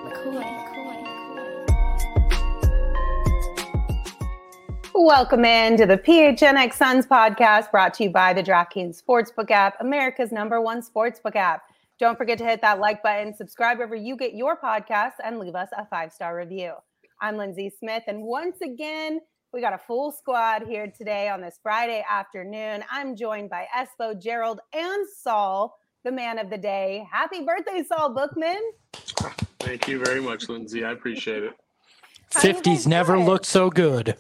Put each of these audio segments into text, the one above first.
Welcome into the PHNX Suns podcast, brought to you by the DraftKings Sportsbook app, America's #1 sportsbook app. Don't forget to hit that like button, subscribe wherever you get your podcasts, and leave us a 5-star review. I'm Lindsay Smith, and once again, we got a full squad here today on this Friday afternoon. I'm joined by Espo, Gerald, and Saul, the man of the day. Happy birthday, Saul Bookman. Thank you very much, Lindsay. I appreciate it. 50s never looked so good.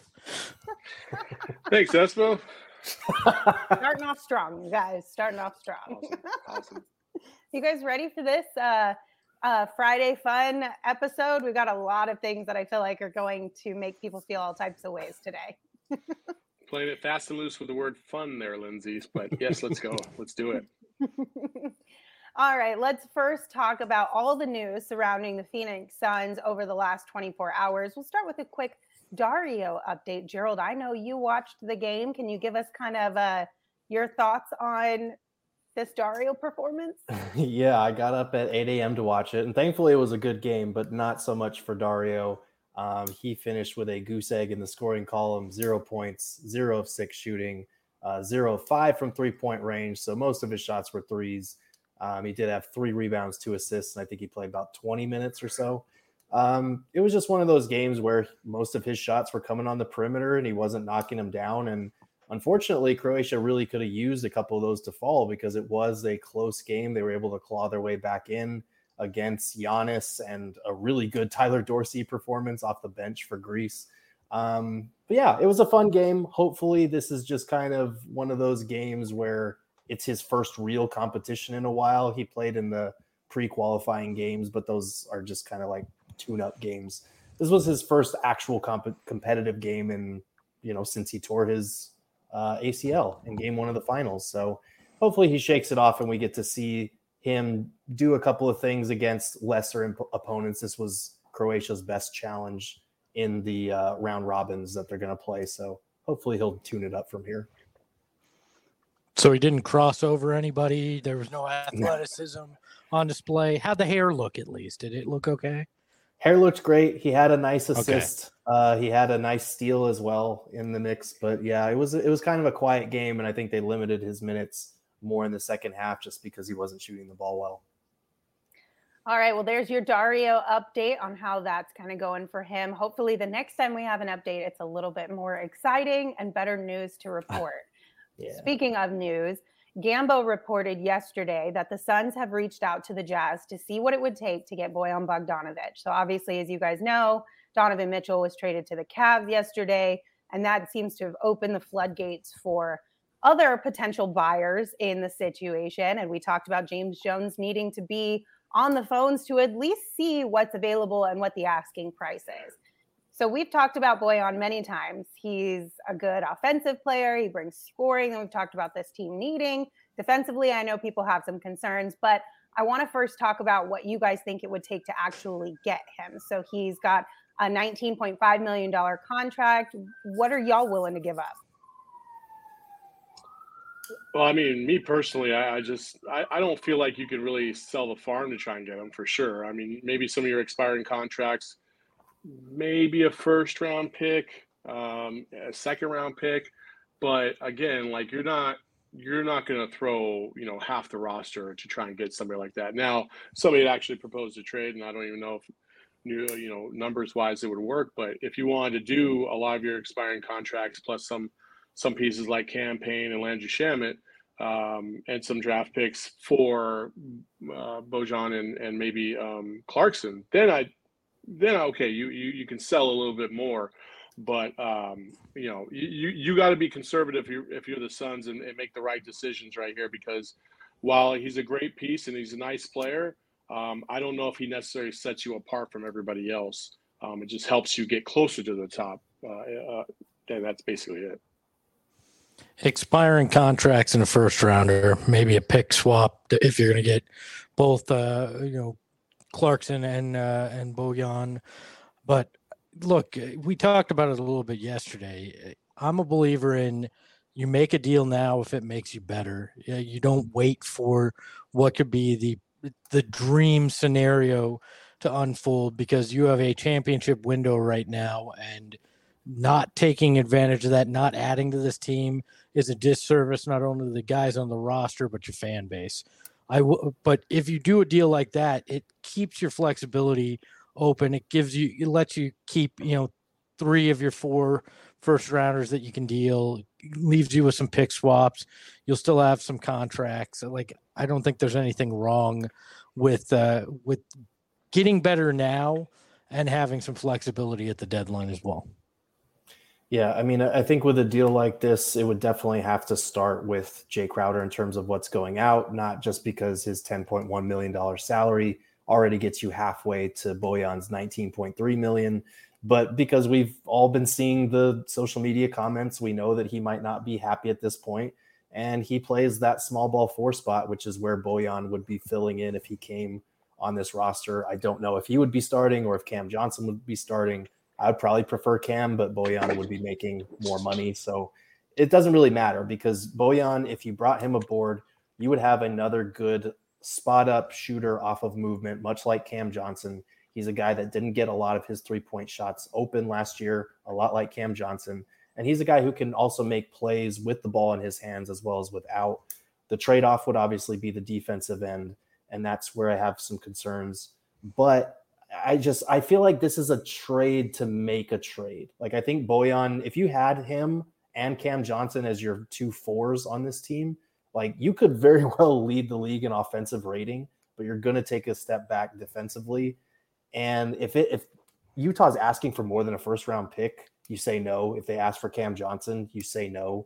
Thanks, Espo. Starting off strong, you guys. Starting off strong. Awesome. You guys ready for this Friday fun episode? We've got a lot of things that I feel like are going to make people feel all types of ways today. Playing it fast and loose with the word fun there, Lindsay. But yes, let's go. Let's do it. All right, let's first talk about all the news surrounding the Phoenix Suns over the last 24 hours. We'll start with a quick Dario update. Gerald, I know you watched the game. Can you give us kind of your thoughts on this Dario performance? Yeah, I got up at 8 a.m. to watch it, and thankfully it was a good game, but not so much for Dario. He finished with a goose egg in the scoring column, 0 points, 0 of 6 shooting, 0 of 5 from three-point range, so most of his shots were threes. He did have 3 rebounds, 2 assists, and I think he played about 20 minutes or so. It was just one of those games where most of his shots were coming on the perimeter and he wasn't knocking them down. And unfortunately, Croatia really could have used a couple of those to fall because it was a close game. They were able to claw their way back in against Giannis and a really good Tyler Dorsey performance off the bench for Greece. But yeah, it was a fun game. Hopefully this is just kind of one of those games where it's his first real competition in a while. He played in the pre-qualifying games, but those are just kind of like tune-up games. This was his first actual competitive game in, since he tore his ACL in game 1 of the finals. So hopefully he shakes it off and we get to see him do a couple of things against lesser opponents. This was Croatia's best challenge in the round robins that they're going to play. So hopefully he'll tune it up from here. So he didn't cross over anybody. There was no athleticism on display. How'd the hair look at least? Did it look okay? Hair looked great. He had a nice assist. Okay. He had a nice steal as well in the mix. But yeah, it was kind of a quiet game, and I think they limited his minutes more in the second half just because he wasn't shooting the ball well. All right, well, there's your Dario update on how that's kind of going for him. Hopefully the next time we have an update, it's a little bit more exciting and better news to report. Yeah. Speaking of news, Gambo reported yesterday that the Suns have reached out to the Jazz to see what it would take to get Bojan Bogdanovic. So obviously, as you guys know, Donovan Mitchell was traded to the Cavs yesterday, and that seems to have opened the floodgates for other potential buyers in the situation. And we talked about James Jones needing to be on the phones to at least see what's available and what the asking price is. So we've talked about Bojan many times. He's a good offensive player. He brings scoring, and we've talked about this team needing. Defensively, I know people have some concerns, but I want to first talk about what you guys think it would take to actually get him. So he's got a $19.5 million contract. What are y'all willing to give up? Well, I mean, me personally, I don't feel like you could really sell the farm to try and get him for sure. I mean, maybe some of your expiring contracts, maybe a first-round pick, a second-round pick, but again, like you're not going to throw half the roster to try and get somebody like that. Now, somebody had actually proposed a trade, and I don't even know if numbers-wise it would work. But if you wanted to do a lot of your expiring contracts plus some pieces like Cam Payne and Landry Shamet, and some draft picks for Bojan and maybe Clarkson, then okay, you can sell a little bit more, but you got to be conservative if you're the Suns and make the right decisions right here, because while he's a great piece and he's a nice player, I don't know if he necessarily sets you apart from everybody else. It just helps you get closer to the top, and that's basically it. Expiring contracts in a first rounder, maybe a pick swap if you're going to get both, Clarkson and Bojan. But look, we talked about it a little bit yesterday. I'm a believer in you make a deal now if it makes you better. You don't wait for what could be the dream scenario to unfold because you have a championship window right now, and not taking advantage of that, not adding to this team is a disservice not only to the guys on the roster but your fan base. But if you do a deal like that, it keeps your flexibility open. It lets you keep 3 of your 4 first rounders that you can deal. It leaves you with some pick swaps. You'll still have some contracts. Like, I don't think there's anything wrong with getting better now and having some flexibility at the deadline as well. Yeah, I mean, I think with a deal like this, it would definitely have to start with Jay Crowder in terms of what's going out, not just because his $10.1 million salary already gets you halfway to Bojan's $19.3 million, but because we've all been seeing the social media comments, we know that he might not be happy at this point, and he plays that small ball 4 spot, which is where Bojan would be filling in if he came on this roster. I don't know if he would be starting or if Cam Johnson would be starting. I'd probably prefer Cam, but Bojan would be making more money. So it doesn't really matter because Bojan, if you brought him aboard, you would have another good spot up shooter off of movement, much like Cam Johnson. He's a guy that didn't get a lot of his 3-point shots open last year, a lot like Cam Johnson. And he's a guy who can also make plays with the ball in his hands as well as without. The trade-off would obviously be the defensive end, and that's where I have some concerns. But I feel like this is a trade to make a trade. Like, I think Bojan, if you had him and Cam Johnson as your 2 4s on this team, like, you could very well lead the league in offensive rating, but you're going to take a step back defensively. And if Utah's asking for more than a first round pick, you say no. If they ask for Cam Johnson, you say no.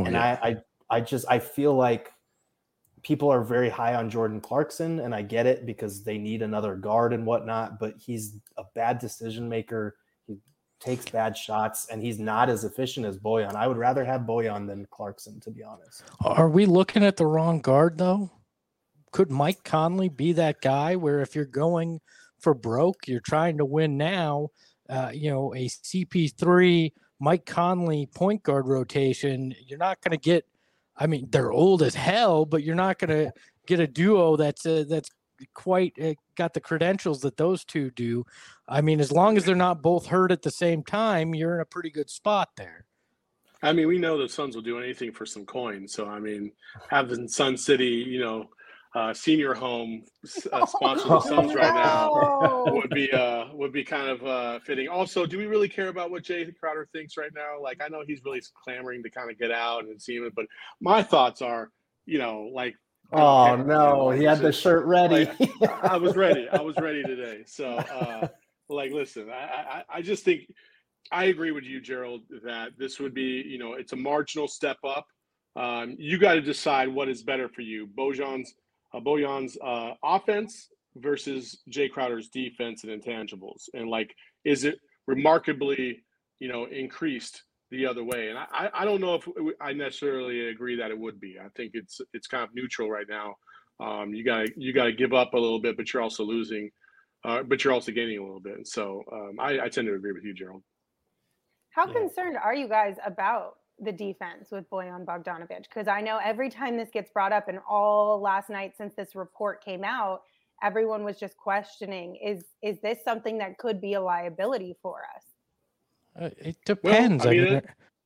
I feel like people are very high on Jordan Clarkson, and I get it because they need another guard and whatnot, but he's a bad decision maker. He takes bad shots, and he's not as efficient as Bojan. I would rather have Bojan than Clarkson, to be honest. Are we looking at the wrong guard, though? Could Mike Conley be that guy where if you're going for broke, you're trying to win now, a CP3, Mike Conley point guard rotation, you're not going to get – I mean, they're old as hell, but you're not going to get a duo that's quite got the credentials that those two do. I mean, as long as they're not both hurt at the same time, you're in a pretty good spot there. I mean, we know the Suns will do anything for some coins. So, I mean, having Sun City, senior home sponsor the Suns right now would be kind of fitting. Also, do we really care about what Jay Crowder thinks right now? Like, I know he's really clamoring to kind of get out and see him, but my thoughts are, oh no, he had the shirt ready. I was ready today. So, listen, I just think I agree with you, Gerald, that this would be, it's a marginal step up. You got to decide what is better for you, Bojan's offense versus Jay Crowder's defense and intangibles, and is it remarkably increased the other way? And I don't know if I necessarily agree that it would be. I think it's kind of neutral right now. You gotta give up a little bit, but you're also losing, but you're also gaining a little bit. So I tend to agree with you, Gerald. How concerned are you guys about the defense with Bojan Bogdanovic? Because I know every time this gets brought up, and all last night since this report came out, everyone was just questioning, is this something that could be a liability for us? It depends. Well,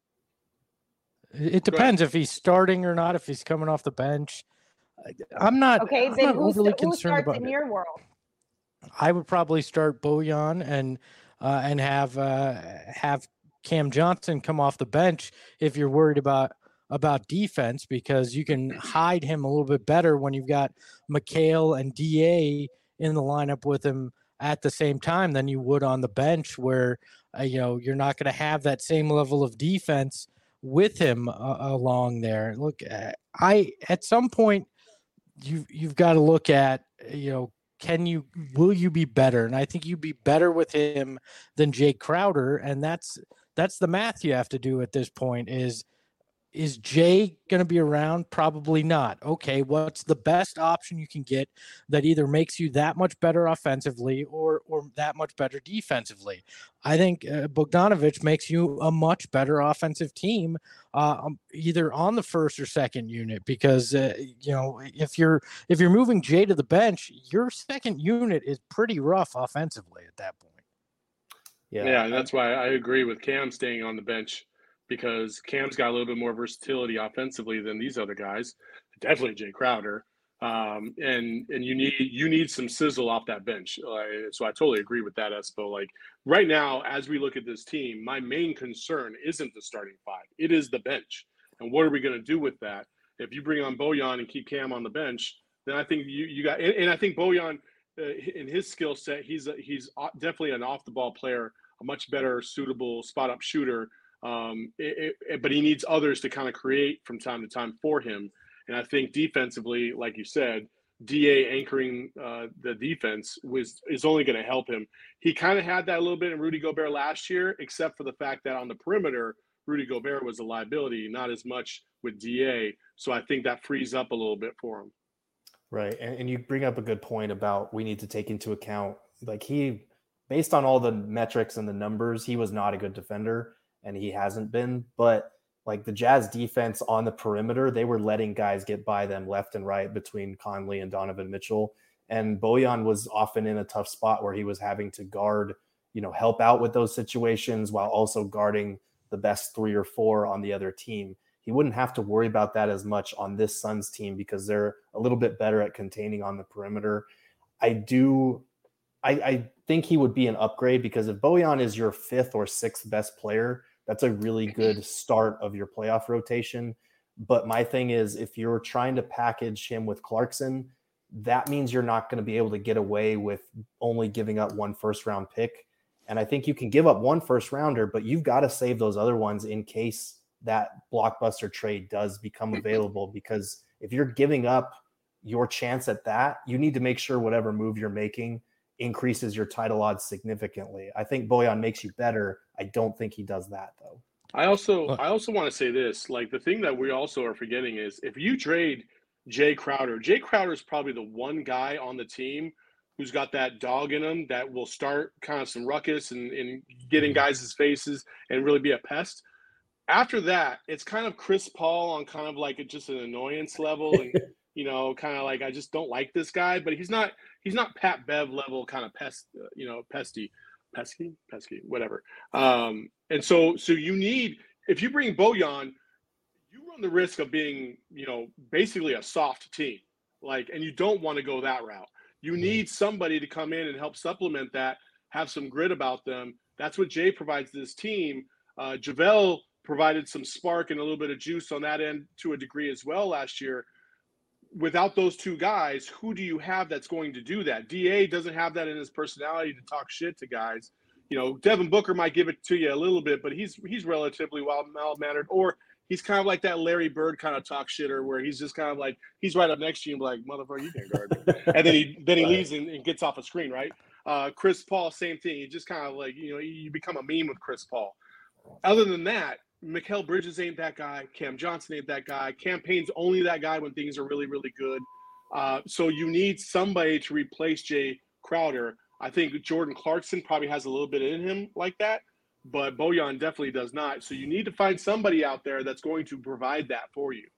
it depends if he's starting or not, if he's coming off the bench. I'm not overly concerned about it. In your world? I would probably start Bojan and have Cam Johnson come off the bench if you're worried about defense, because you can hide him a little bit better when you've got McHale and DA in the lineup with him at the same time than you would on the bench, where you're not going to have that same level of defense with him along there. Look, at some point you've got to look at will you be better? And I think you'd be better with him than Jay Crowder, and that's the math you have to do at this point. Is is Jay going to be around? Probably not. Okay, what's the best option you can get that either makes you that much better offensively or that much better defensively? I think Bogdanovic makes you a much better offensive team, either on the first or second unit, because if you're moving Jay to the bench, your second unit is pretty rough offensively at that point. Yeah, and that's why I agree with Cam staying on the bench, because Cam's got a little bit more versatility offensively than these other guys. Definitely Jay Crowder, and you need some sizzle off that bench. So I totally agree with that, Espo. Like right now, as we look at this team, my main concern isn't the starting five; it is the bench. And what are we going to do with that? If you bring on Bojan and keep Cam on the bench, then I think you got. And I think Bojan, in his skill set, he's definitely an off the ball player, a much better suitable spot up shooter. But he needs others to kind of create from time to time for him. And I think defensively, like you said, DA anchoring the defense is only going to help him. He kind of had that a little bit in Rudy Gobert last year, except for the fact that on the perimeter, Rudy Gobert was a liability, not as much with DA. So I think that frees up a little bit for him. Right. And you bring up a good point about we need to take into account, like based on all the metrics and the numbers, he was not a good defender. And he hasn't been, but like the Jazz defense on the perimeter, they were letting guys get by them left and right between Conley and Donovan Mitchell. And Bojan was often in a tough spot where he was having to guard, help out with those situations while also guarding the best 3 or 4 on the other team. He wouldn't have to worry about that as much on this Suns team because they're a little bit better at containing on the perimeter. I think he would be an upgrade because if Bojan is your 5th or 6th best player, that's a really good start of your playoff rotation. But my thing is, if you're trying to package him with Clarkson, that means you're not going to be able to get away with only giving up 1 first-round pick. And I think you can give up 1 first-rounder, but you've got to save those other ones in case that blockbuster trade does become available. Because if you're giving up your chance at that, you need to make sure whatever move you're making increases your title odds significantly. I think Bojan makes you better. I don't think he does that though. I also want to say this, like the thing that we also are forgetting is if you trade Jay Crowder is probably the one guy on the team who's got that dog in him that will start kind of some ruckus and get in guys' faces and really be a pest. After that, it's kind of Chris Paul on kind of like just an annoyance level and kind of like I just don't like this guy, but he's not Pat Bev level kind of pesky, whatever. And so you need, if you bring Bojan, you run the risk of being, basically a soft team, and you don't want to go that route. You need somebody to come in and help supplement that, have some grit about them. That's what Jay provides this team. JaVale provided some spark and a little bit of juice on that end to a degree as well last year. Without those 2 guys, who do you have that's going to do that? DA doesn't have that in his personality to talk shit to guys. Devin Booker might give it to you a little bit, but he's relatively well-mannered, or he's kind of like that Larry Bird kind of talk shitter where he's just kind of like, he's right up next to you and like, motherfucker, you can't guard me. And then he leaves and gets off a screen, right? Chris Paul, same thing. He just kind of like, you become a meme with Chris Paul. Other than that, Mikal Bridges ain't that guy. Cam Johnson ain't that guy. Cam Payne's only that guy when things are really, really good. So you need somebody to replace Jay Crowder. I think Jordan Clarkson probably has a little bit in him like that, but Bojan definitely does not. So you need to find somebody out there that's going to provide that for you.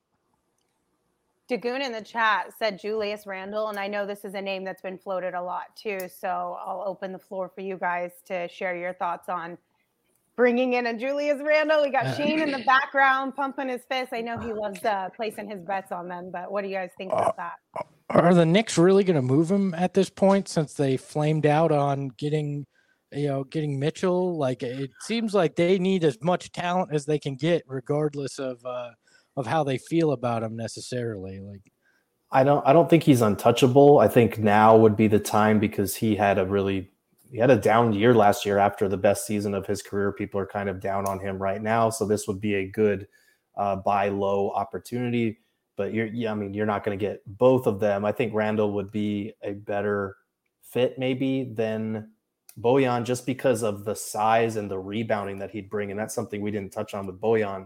Dagoon in the chat said Julius Randle, and I know this is a name that's been floated a lot too, so I'll open the floor for you guys to share your thoughts on bringing in a Julius Randle. We got Shane in the background pumping his fist. I know he loves placing his bets on them, but what do you guys think about that? Are the Knicks really going to move him at this point since they flamed out on getting Mitchell? Like it seems like they need as much talent as they can get, regardless of how they feel about him necessarily. Like I don't think he's untouchable. I think now would be the time because he had a down year last year after the best season of his career. People are kind of down on him right now. So this would be a good buy low opportunity, but you're not going to get both of them. I think Randle would be a better fit maybe than Bojan just because of the size and the rebounding that he'd bring. And that's something we didn't touch on with Bojan.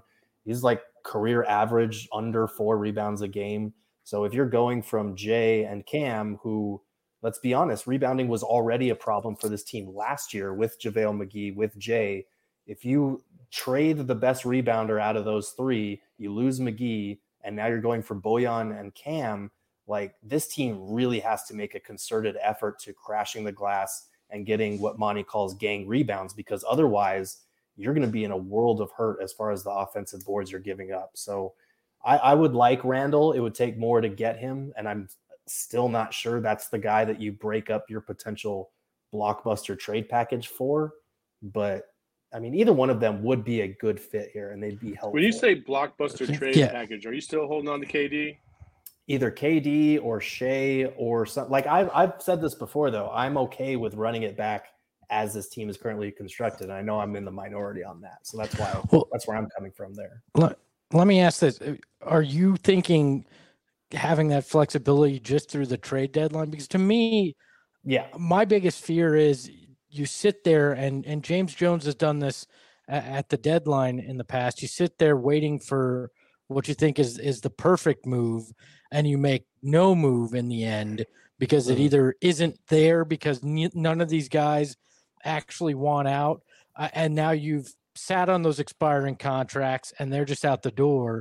He's like career average under 4 rebounds a game. So if you're going from Jay and Cam, who, let's be honest, rebounding was already a problem for this team last year with JaVale McGee, with Jay. If you trade the best rebounder out of those 3, you lose McGee, and now you're going for Bojan and Cam. Like, this team really has to make a concerted effort to crashing the glass and getting what Monty calls gang rebounds, because otherwise you're going to be in a world of hurt as far as the offensive boards you're giving up. So I would like Randall. It would take more to get him, and I'm still not sure that's the guy that you break up your potential blockbuster trade package for. But I mean, either one of them would be a good fit here, and they'd be helpful. When you say blockbuster trade package, are you still holding on to KD? Either KD or Shea or something. Like I've said this before, though, I'm okay with running it back as this team is currently constructed. I know I'm in the minority on that, so that's why that's where I'm coming from there. Let me ask this: are you thinking having that flexibility just through the trade deadline? Because to me, my biggest fear is you sit there, and James Jones has done this at the deadline in the past. You sit there waiting for what you think is the perfect move, and you make no move in the end because it either isn't there because none of these guys actually want out, and now you've sat on those expiring contracts and they're just out the door.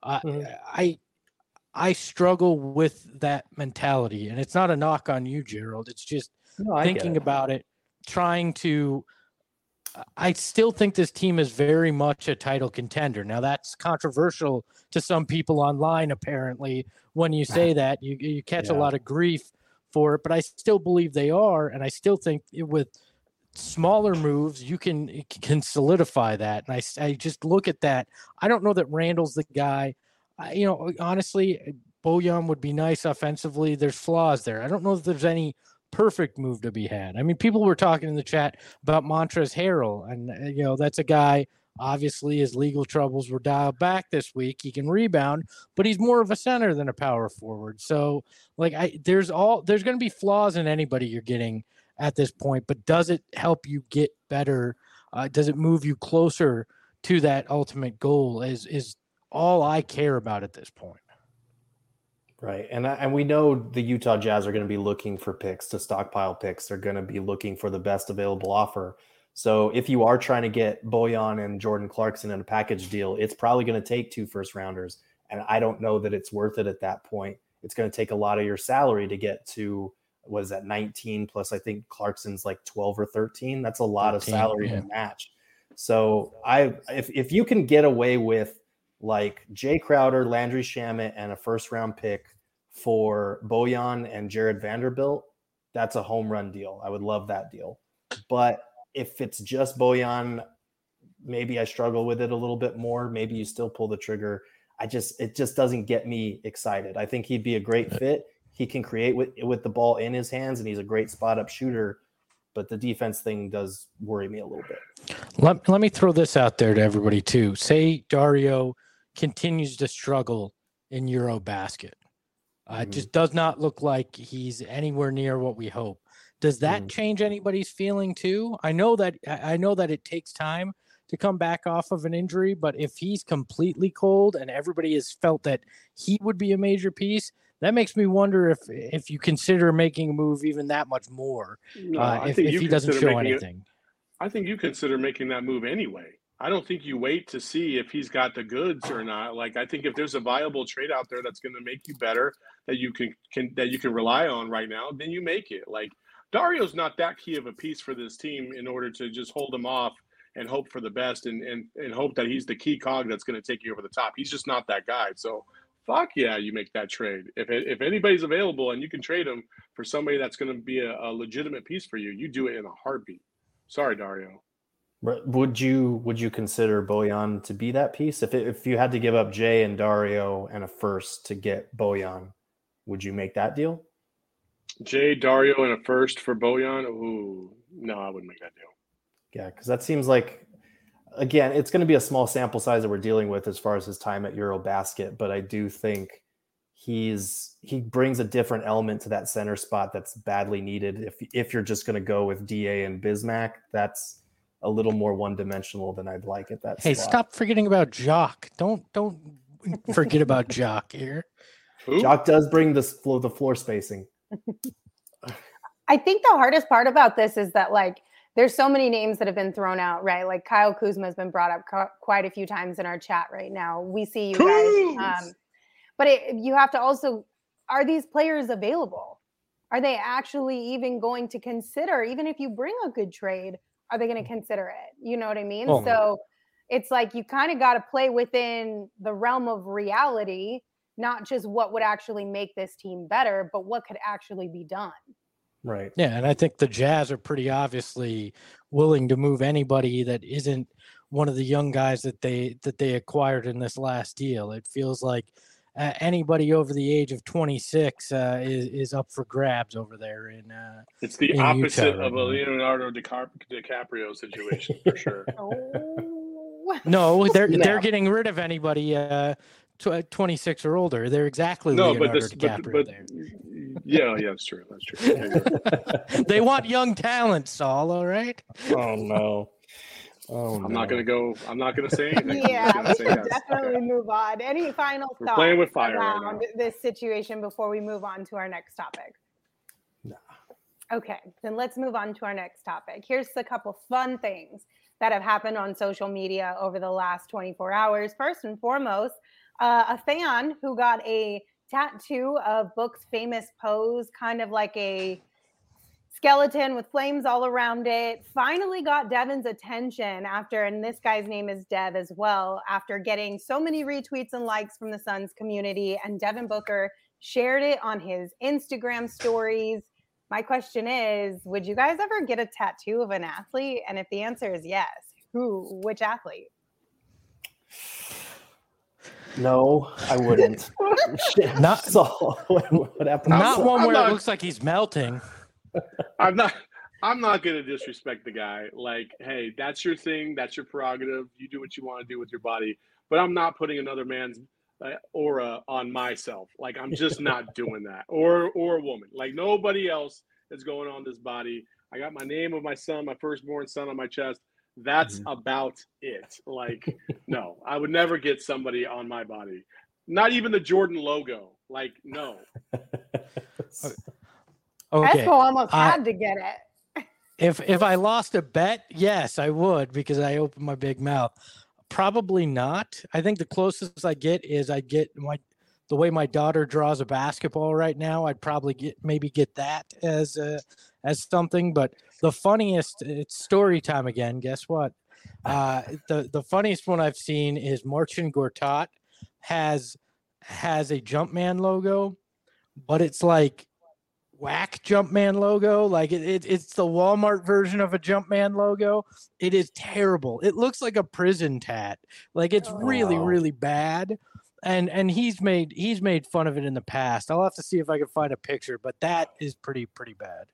I struggle with that mentality, and it's not a knock on you, Gerald. It's just thinking about it, trying to. I still think this team is very much a title contender. Now, that's controversial to some people online, apparently. When you say that, you catch a lot of grief for it, but I still believe they are, and I still think with smaller moves, you can solidify that. And I just look at that. I don't know that Randall's the guy. Honestly, Bojan would be nice offensively. There's flaws there. I don't know if there's any perfect move to be had. I mean, people were talking in the chat about Montrezl Harrell, and that's a guy. Obviously, his legal troubles were dialed back this week. He can rebound, but he's more of a center than a power forward. So, there's going to be flaws in anybody you're getting at this point, but does it help you get better? Does it move you closer to that ultimate goal? Is all I care about at this point. Right. And we know the Utah Jazz are going to be looking for picks, to stockpile picks. They're going to be looking for the best available offer. So if you are trying to get Bojan and Jordan Clarkson in a package deal, it's probably going to take 2 first-rounders. And I don't know that it's worth it at that point. It's going to take a lot of your salary to get to, 19 plus, I think Clarkson's like 12 or 13. That's a lot 13, of salary to match. So if you can get away with like Jay Crowder, Landry Shamet, and a first-round pick for Bojan and Jared Vanderbilt, that's a home run deal. I would love that deal. But if it's just Bojan, maybe I struggle with it a little bit more. Maybe you still pull the trigger. It just doesn't get me excited. I think he'd be a great fit. He can create with the ball in his hands, and he's a great spot-up shooter. But the defense thing does worry me a little bit. Let me throw this out there to everybody, too. Say Dario continues to struggle in Eurobasket. It just does not look like he's anywhere near what we hope. Does that change anybody's feeling, too? I know that it takes time to come back off of an injury, but if he's completely cold and everybody has felt that he would be a major piece, that makes me wonder if you consider making a move even that much more. If he doesn't show anything. I think you consider making that move anyway. I don't think you wait to see if he's got the goods or not. Like, I think if there's a viable trade out there that's going to make you better, that you can rely on right now, then you make it. Like, Dario's not that key of a piece for this team in order to just hold him off and hope for the best and hope that he's the key cog that's going to take you over the top. He's just not that guy. So, fuck yeah, you make that trade. If anybody's available and you can trade him for somebody that's going to be a legitimate piece for you, you do it in a heartbeat. Sorry, Dario. Would you consider Bojan to be that piece? If you had to give up Jay and Dario and a first to get Bojan, would you make that deal? Jay, Dario, and a first for Bojan? Ooh, no, I wouldn't make that deal. Yeah, because that seems like, again, it's going to be a small sample size that we're dealing with as far as his time at Eurobasket, but I do think he brings a different element to that center spot that's badly needed. If you're just going to go with DA and Bismack, a little more one-dimensional than I'd like at that Hey, spot. stop forgetting about Jock. Don't forget about Jock here. Who? Jock does bring the floor spacing. I think the hardest part about this is that like there's so many names that have been thrown out, right? Like Kyle Kuzma has been brought up quite a few times in our chat right now. We see you guys, but you have to also, are these players available? Are they actually even going to consider, even if you bring a good trade, are they going to consider it? You know what I mean? Oh. So it's like you kind of got to play within the realm of reality, not just what would actually make this team better, but what could actually be done. Right. Yeah, and I think the Jazz are pretty obviously willing to move anybody that isn't one of the young guys that they acquired in this last deal. It feels like anybody over the age of 26 is up for grabs over there in. It's the in opposite Utah right of a now. Leonardo DiCaprio situation for sure. Oh. No, they're Snap. getting rid of anybody 26 or older. They're exactly No, Leonardo but DiCaprio there. yeah, that's true. That's true. Yeah, you're right. They want young talent, Saul. All right. Oh no. Oh, I'm not gonna say anything. I'm Yeah, just we gonna say should yes. definitely move on. Any final We're thoughts playing with fire right around now. this situation before we move on to our next topic? No. Okay, then let's move on to our next topic. Here's a couple fun things that have happened on social media over the last 24 hours. First and foremost, a fan who got a tattoo of Book's famous pose, kind of like a skeleton with flames all around it, finally got Devin's attention after, and this guy's name is Dev as well, after getting so many retweets and likes from the Suns community, and Devin Booker shared it on his Instagram stories. My question is, would you guys ever get a tattoo of an athlete? And if the answer is yes, which athlete? No, I wouldn't. Not- so, what happened? Not one I'm where not- it looks like he's melting. I'm not gonna disrespect the guy. Like, hey, that's your thing, that's your prerogative. You do what you want to do with your body. But I'm not putting another man's aura on myself. Like, I'm just not doing that. Or a woman. Like, nobody else is going on this body. I got my name of my son, my firstborn son, on my chest. That's about it. Like, no, I would never get somebody on my body. Not even the Jordan logo. Like, no. Okay. Espo almost had to get it. If I lost a bet, yes, I would because I opened my big mouth. Probably not. I think the closest I get is I get the way my daughter draws a basketball right now. I'd probably get that as something. But the funniest, it's story time again. Guess what? The funniest one I've seen is Marcin Gortat has a Jumpman logo, but it's like whack Jumpman logo. Like it's the Walmart version of a Jumpman logo. It is terrible. It looks like a prison tat. Like it's really, really bad. And he's made fun of it in the past. I'll have to see if I can find a picture, but that is pretty bad.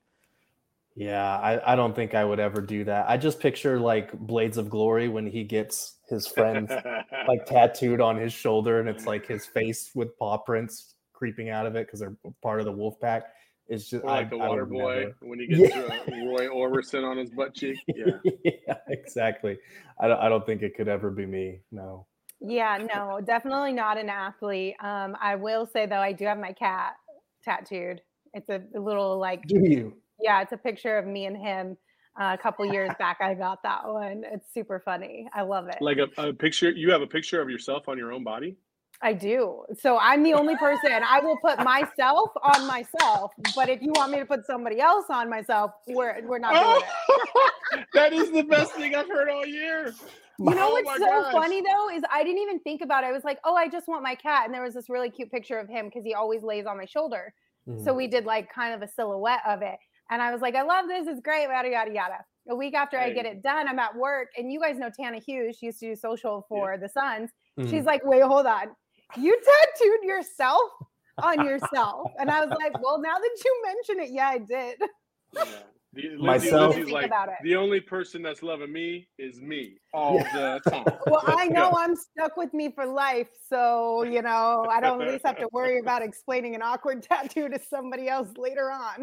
Yeah, I don't think I would ever do that. I just picture like Blades of Glory when he gets his friend like tattooed on his shoulder, and it's like his face with paw prints creeping out of it because they're part of the wolf pack. It's just Or like the water would boy never. when he gets Roy Orbison on his butt cheek. Yeah. Yeah, exactly. I don't think it could ever be me. No. Yeah, no, definitely not an athlete. I will say though, I do have my cat tattooed. It's a little like, Do you? yeah, it's a picture of me and him. A couple years back, I got that one. It's super funny. I love it. Like a picture. You have a picture of yourself on your own body? I do. So I'm the only person. I will put myself on myself, but if you want me to put somebody else on myself, we're not doing it. That is the best thing I've heard all year. You know Oh what's my so gosh. funny though is I didn't even think about it. I was like, oh, I just want my cat, and there was this really cute picture of him because he always lays on my shoulder. So we did like kind of a silhouette of it, and I was like, I love this. It's great. Yada yada yada. A week after I get it done, I'm at work, and you guys know Tana Hughes. She used to do social for the Suns. She's like, wait, hold on. You tattooed yourself on yourself. And I was like, well, now that you mention it, yeah, I did. Yeah. Myself. Lindsay's Think like, about it. the only person that's loving me is me all the time. Well, I Let's know go. I'm stuck with me for life. So, you know, I don't at least have to worry about explaining an awkward tattoo to somebody else later on.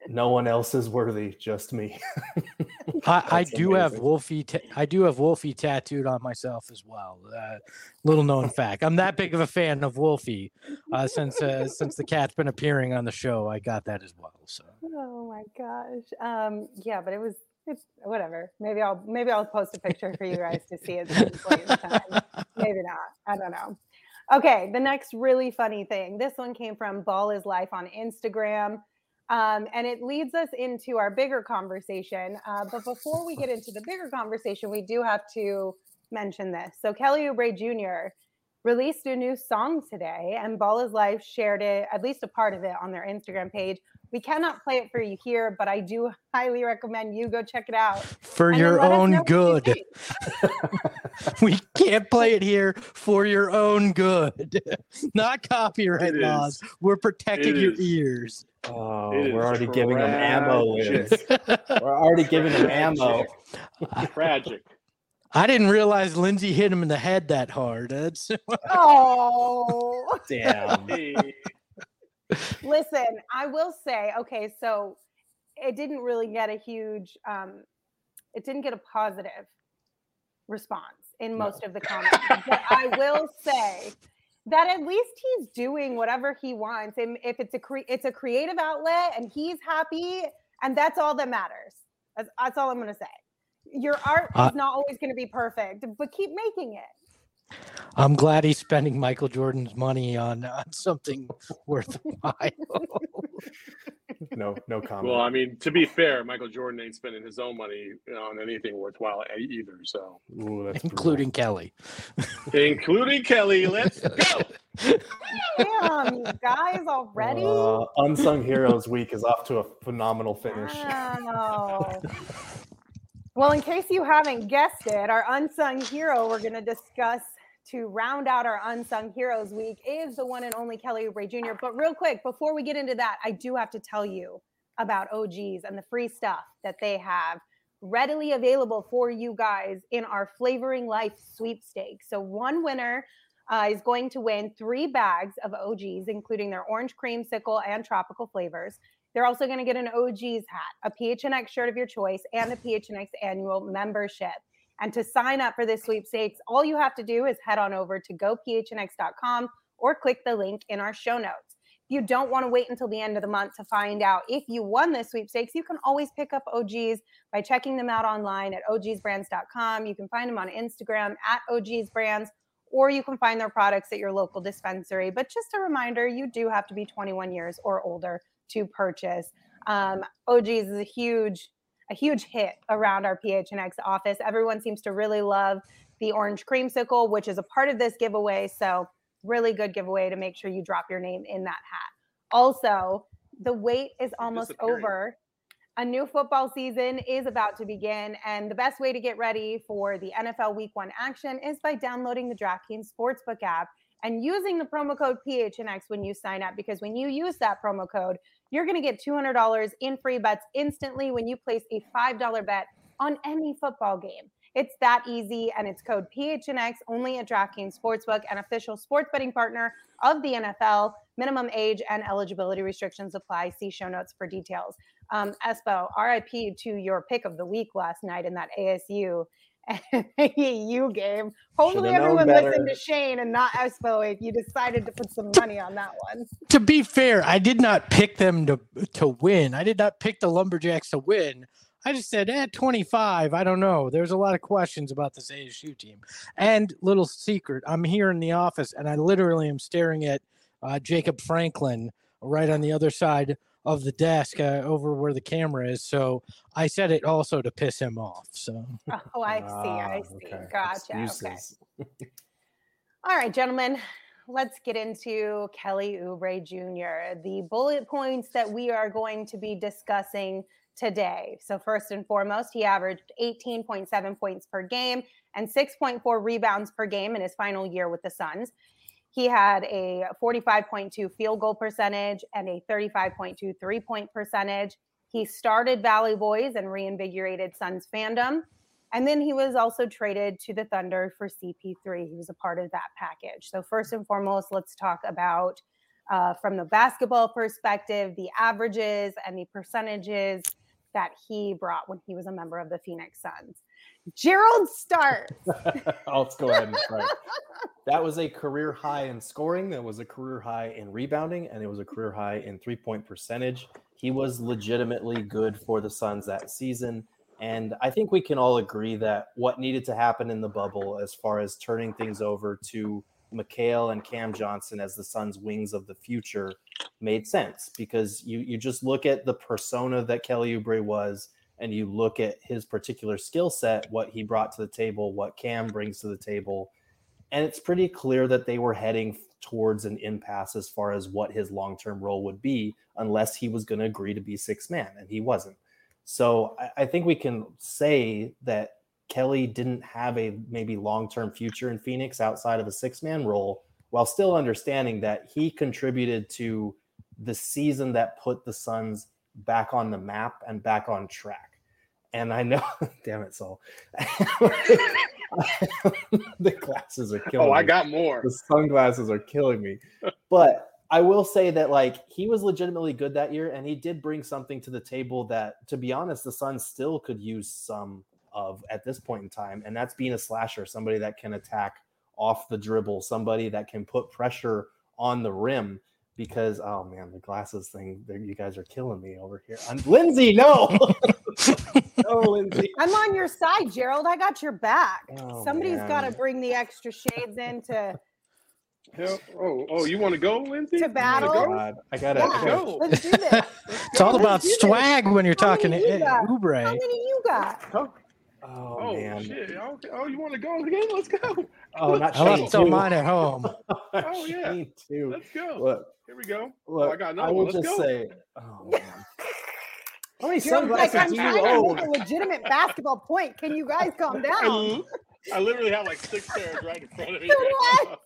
No one else is worthy, just me. I That's do have amazing. Wolfie tattooed on myself as well. Little known fact. I'm that big of a fan of Wolfie since the cat's been appearing on the show. I got that as well. So Oh my gosh. Yeah, but it's whatever. Maybe I'll post a picture for you guys to see at some point in time. Maybe not. I don't know. Okay, the next really funny thing. This one came from Ball is Life on Instagram. And it leads us into our bigger conversation. But before we get into the bigger conversation, we do have to mention this. So Kelly Oubre Jr. released a new song today, and Ball is Life shared it, at least a part of it, on their Instagram page. We cannot play it for you here, but I do highly recommend you go check it out. for And your then let us know own what you good. think. We can't play it here for your own good. Not copyright It laws. is. We're protecting It your is. ears. Oh, It we're is already giving them ammo, Liz. tragic. We're already giving them ammo. Tragic. I didn't realize Lindsay hit him in the head that hard. That's Oh, Damn. Hey, listen, I will say, okay, so it didn't really get a huge, it didn't get a positive response in most of the comments. But I will say that at least he's doing whatever he wants, and if it's a creative outlet, and he's happy, and that's all that matters. That's all I'm going to say. Your art is not always going to be perfect, but keep making it. I'm glad he's spending Michael Jordan's money on something worthwhile. No comment. well, I mean, to be fair, Michael Jordan ain't spending his own money on anything worthwhile either. So, Ooh, that's including Kelly. including Kelly. Let's go. Damn, you guys already? Unsung Heroes Week is off to a phenomenal finish. Wow. Well, in case you haven't guessed it, our unsung hero we're going to discuss to round out our Unsung Heroes Week is the one and only Kelly Oubre Jr. But real quick, before we get into that, I do have to tell you about OGs and the free stuff that they have readily available for you guys in our Flavoring Life sweepstakes. So one winner is going to win 3 bags of OGs, including their orange creamsicle and tropical flavors. They're also going to get an OGs hat, a PHNX shirt of your choice, and a PHNX annual membership. And to sign up for this sweepstakes, all you have to do is head on over to gophnx.com or click the link in our show notes. If you don't want to wait until the end of the month to find out if you won this sweepstakes, you can always pick up OGs by checking them out online at ogsbrands.com. You can find them on Instagram at ogsbrands, or you can find their products at your local dispensary. But just a reminder, you do have to be 21 years or older to purchase. OGs is a huge hit around our PHNX office. Everyone seems to really love the orange creamsicle, which is a part of this giveaway. So really good giveaway to make sure you drop your name in that hat. Also, the wait is almost over. A new football season is about to begin, and the best way to get ready for the NFL Week 1 action is by downloading the DraftKings Sportsbook app and using the promo code PHNX when you sign up, because when you use that promo code, you're going to get $200 in free bets instantly when you place a $5 bet on any football game. It's that easy, and it's code PHNX only at DraftKings Sportsbook, an official sports betting partner of the NFL. Minimum age and eligibility restrictions apply. See show notes for details. Espo, RIP to your pick of the week last night in that ASU AAU game. Hopefully everyone listened to Shane and not Espo if you decided to put some money on that one. To be fair, I did not pick them to win. I did not pick the Lumberjacks to win. I just said, 25, I don't know. There's a lot of questions about this ASU team. And little secret, I'm here in the office, and I literally am staring at Jacob Franklin right on the other side of the desk over where the camera is. So I said it also to piss him off. So. Oh, I see. Okay. Gotcha. Excuses. Okay. All right, gentlemen, let's get into Kelly Oubre Jr., the bullet points that we are going to be discussing today. So first and foremost, he averaged 18.7 points per game and 6.4 rebounds per game in his final year with the Suns. He had a 45.2 field goal percentage and a 35.2 3-point percentage. He started Valley Boys and reinvigorated Suns fandom. And then he was also traded to the Thunder for CP3. He was a part of that package. So first and foremost, let's talk about from the basketball perspective, the averages and the percentages that he brought when he was a member of the Phoenix Suns. Gerald starts. Let's go ahead and start. That was a career high in scoring. That was a career high in rebounding, and it was a career high in 3-point percentage. He was legitimately good for the Suns that season. And I think we can all agree that what needed to happen in the bubble as far as turning things over to Mikal and Cam Johnson as the Suns' wings of the future made sense, because you just look at the persona that Kelly Oubre was, and you look at his particular skill set, what he brought to the table, what Cam brings to the table, and it's pretty clear that they were heading towards an impasse as far as what his long-term role would be, unless he was going to agree to be sixth man, and he wasn't. So I think we can say that Kelly didn't have a maybe long-term future in Phoenix outside of a six-man role, while still understanding that he contributed to the season that put the Suns back on the map and back on track. And I know, damn it, Saul. The glasses are killing me. I got more. The sunglasses are killing me. But I will say that, like, he was legitimately good that year, and he did bring something to the table that, to be honest, the Suns still could use some of at this point in time, and that's being a slasher, somebody that can attack off the dribble, somebody that can put pressure on the rim. Because, oh man, the glasses thing, you guys are killing me over here. Lindsay, no. No, Lindsay. I'm on your side, Gerald. I got your back. Oh, Somebody's man. got to bring the extra shades in to You want to go, Lindsay? To battle? You Oh, wanna God. I gotta Yeah. go? Let's do this. It's all about Let's do this. swag when you're talking to many you got? How Oubre. many you got? Go. Oh, Oh, man. shit. Oh, you want to go again? Let's go. Oh, not I left Shane some too. mine at home. Oh, yeah. Shane too. Let's go. Look, Here we go. look, I got another I will one. Let's just go. say, oh man. How many Gerald's like, sunglasses I'm do trying you to own? make a legitimate basketball point. Can you guys calm down? I literally have like 6 pairs right in front of me. What?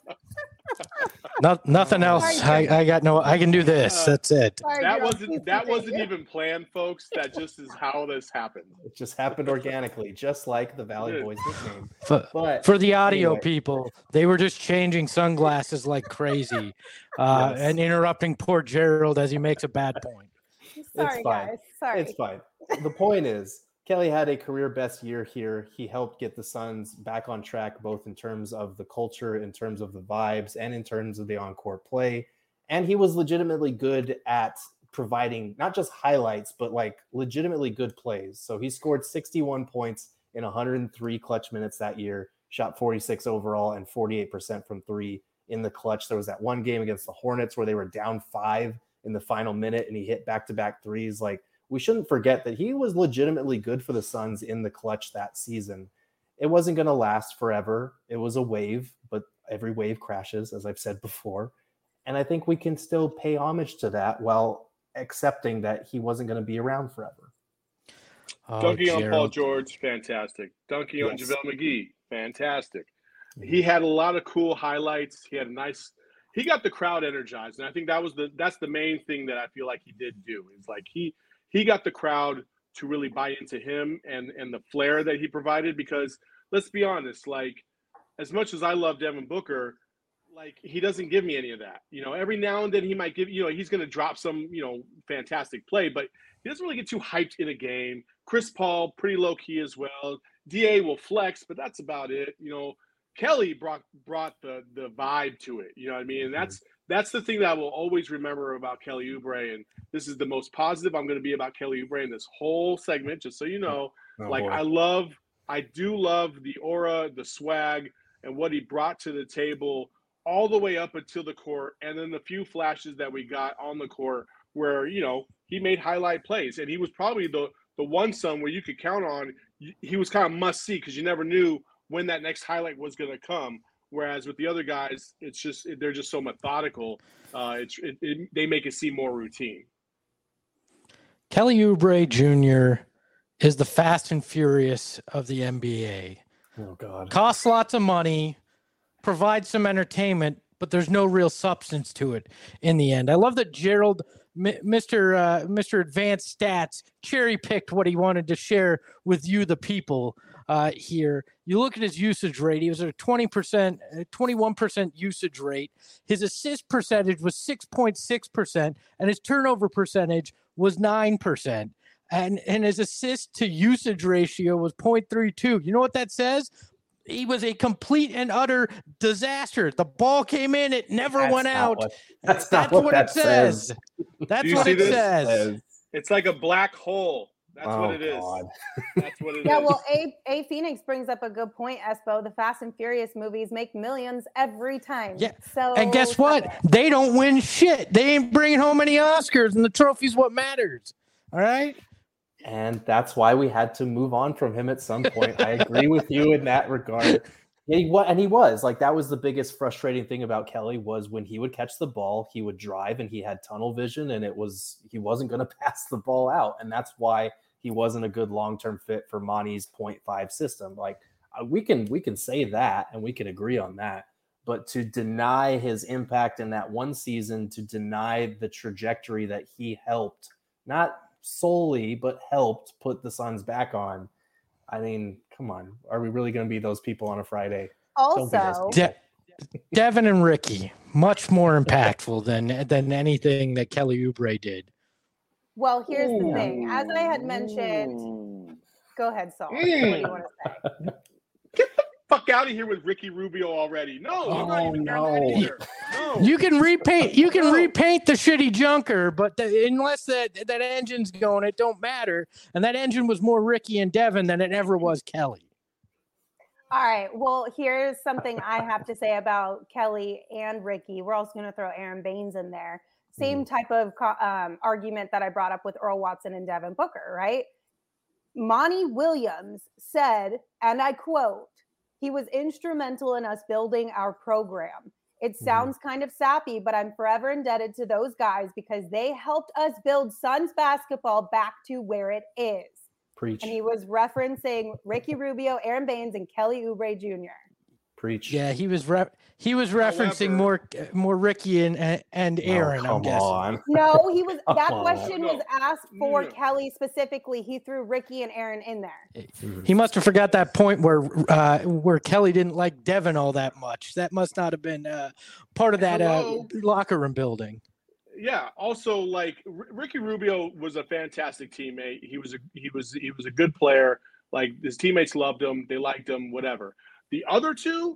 Nothing else. Sorry, I got no. I can do this. That's it. Sorry, That Gerald, please wasn't continue. even planned, folks. That just is how this happened. It just happened organically, just like the Valley It Boys nickname. For, But for the audio anyway. people, they were just changing sunglasses like crazy, Yes. and interrupting poor Gerald as he makes a bad point. Sorry, fine. guys. Sorry. It's fine. The point is, Kelly had a career best year here. He helped get the Suns back on track, both in terms of the culture, in terms of the vibes, and in terms of the on-court play. And he was legitimately good at providing not just highlights, but like legitimately good plays. So he scored 61 points in 103 clutch minutes that year, shot 46 overall and 48% from three in the clutch. There was that one game against the Hornets where they were down 5 in the final minute and he hit back-to-back threes. Like, we shouldn't forget that he was legitimately good for the Suns in the clutch that season. It wasn't going to last forever. It was a wave, but every wave crashes, as I've said before. And I think we can still pay homage to that while accepting that he wasn't going to be around forever. Oh, Dunking on Paul Gerald. George, fantastic. Dunking on Yes. JaVale McGee, fantastic. He had a lot of cool highlights. He had a nice. He got the crowd energized, and I think that's the main thing that I feel like he did do. Is like he got the crowd to really buy into him and the flair that he provided. Because let's be honest, like, as much as I love Devin Booker, like, he doesn't give me any of that. You know, every now and then he might give, he's going to drop some, fantastic play, but he doesn't really get too hyped in a game. Chris Paul, pretty low key as well. DA will flex, but that's about it. Kelly brought the vibe to it. You know what I mean? And that's the thing that I will always remember about Kelly Oubre. And this is the most positive I'm going to be about Kelly Oubre in this whole segment, just so you know. I do love the aura, the swag, and what he brought to the table all the way up until the court, and then the few flashes that we got on the court where, he made highlight plays. And he was probably the one son where you could count on. He was kind of must see because you never knew when that next highlight was going to come. Whereas with the other guys, it's just they're just so methodical. They make it seem more routine. Kelly Oubre Jr. is the Fast and Furious of the NBA. Oh, God. Costs lots of money, provides some entertainment, but there's no real substance to it in the end. I love that Gerald Mr. Advanced Stats cherry picked what he wanted to share with you, the people. Here, you look at his usage rate. He was at a 21% usage rate. His assist percentage was 6.6%, and his turnover percentage was 9%. And his assist to usage ratio was 0.32. You know what that says? He was a complete and utter disaster. The ball came in, it never went out. That's what it says. That's what it says. It's like a black hole. That's what it is. That's what it is. Yeah, well, A Phoenix brings up a good point, Espo. The Fast and Furious movies make millions every time. Yeah. So, and guess what? They don't win shit. They ain't bringing home any Oscars, and the trophy's what matters. All right? And that's why we had to move on from him at some point. I agree with you in that regard. He was like, that was the biggest frustrating thing about Kelly was when he would catch the ball, he would drive and he had tunnel vision, and he wasn't going to pass the ball out. And that's why he wasn't a good long-term fit for Monty's 0.5 system. Like we can say that and we can agree on that, but to deny his impact in that one season, to deny the trajectory that he helped, not solely, but helped put the Suns back on. I mean, come on. Are we really going to be those people on a Friday? Also, Devin and Ricky, much more impactful than anything that Kelly Oubre did. Well, here's the thing. As I had mentioned, go ahead, Saul. What do you want to say? Get the fuck out of here with Ricky Rubio already. No, I'm not even hearing that either. No. You can repaint the shitty junker, but unless that engine's going, it don't matter. And that engine was more Ricky and Devin than it ever was Kelly. All right. Well, here's something I have to say about Kelly and Ricky. We're also going to throw Aaron Baines in there. Same type of argument that I brought up with Earl Watson and Devin Booker, right? Monty Williams said, and I quote, "He was instrumental in us building our program. It sounds kind of sappy, but I'm forever indebted to those guys because they helped us build Suns basketball back to where it is." Preach. And he was referencing Ricky Rubio, Aaron Baines, and Kelly Oubre Jr. Preach. Yeah, he was referencing more Ricky and Aaron. I'm guessing. On. No, he was. That question was asked for Kelly specifically. He threw Ricky and Aaron in there. He must have forgot that point where Kelly didn't like Devin all that much. That must not have been part of that locker room building. Yeah. Also, like Ricky Rubio was a fantastic teammate. He was a good player. Like his teammates loved him. They liked him. Whatever. The other two,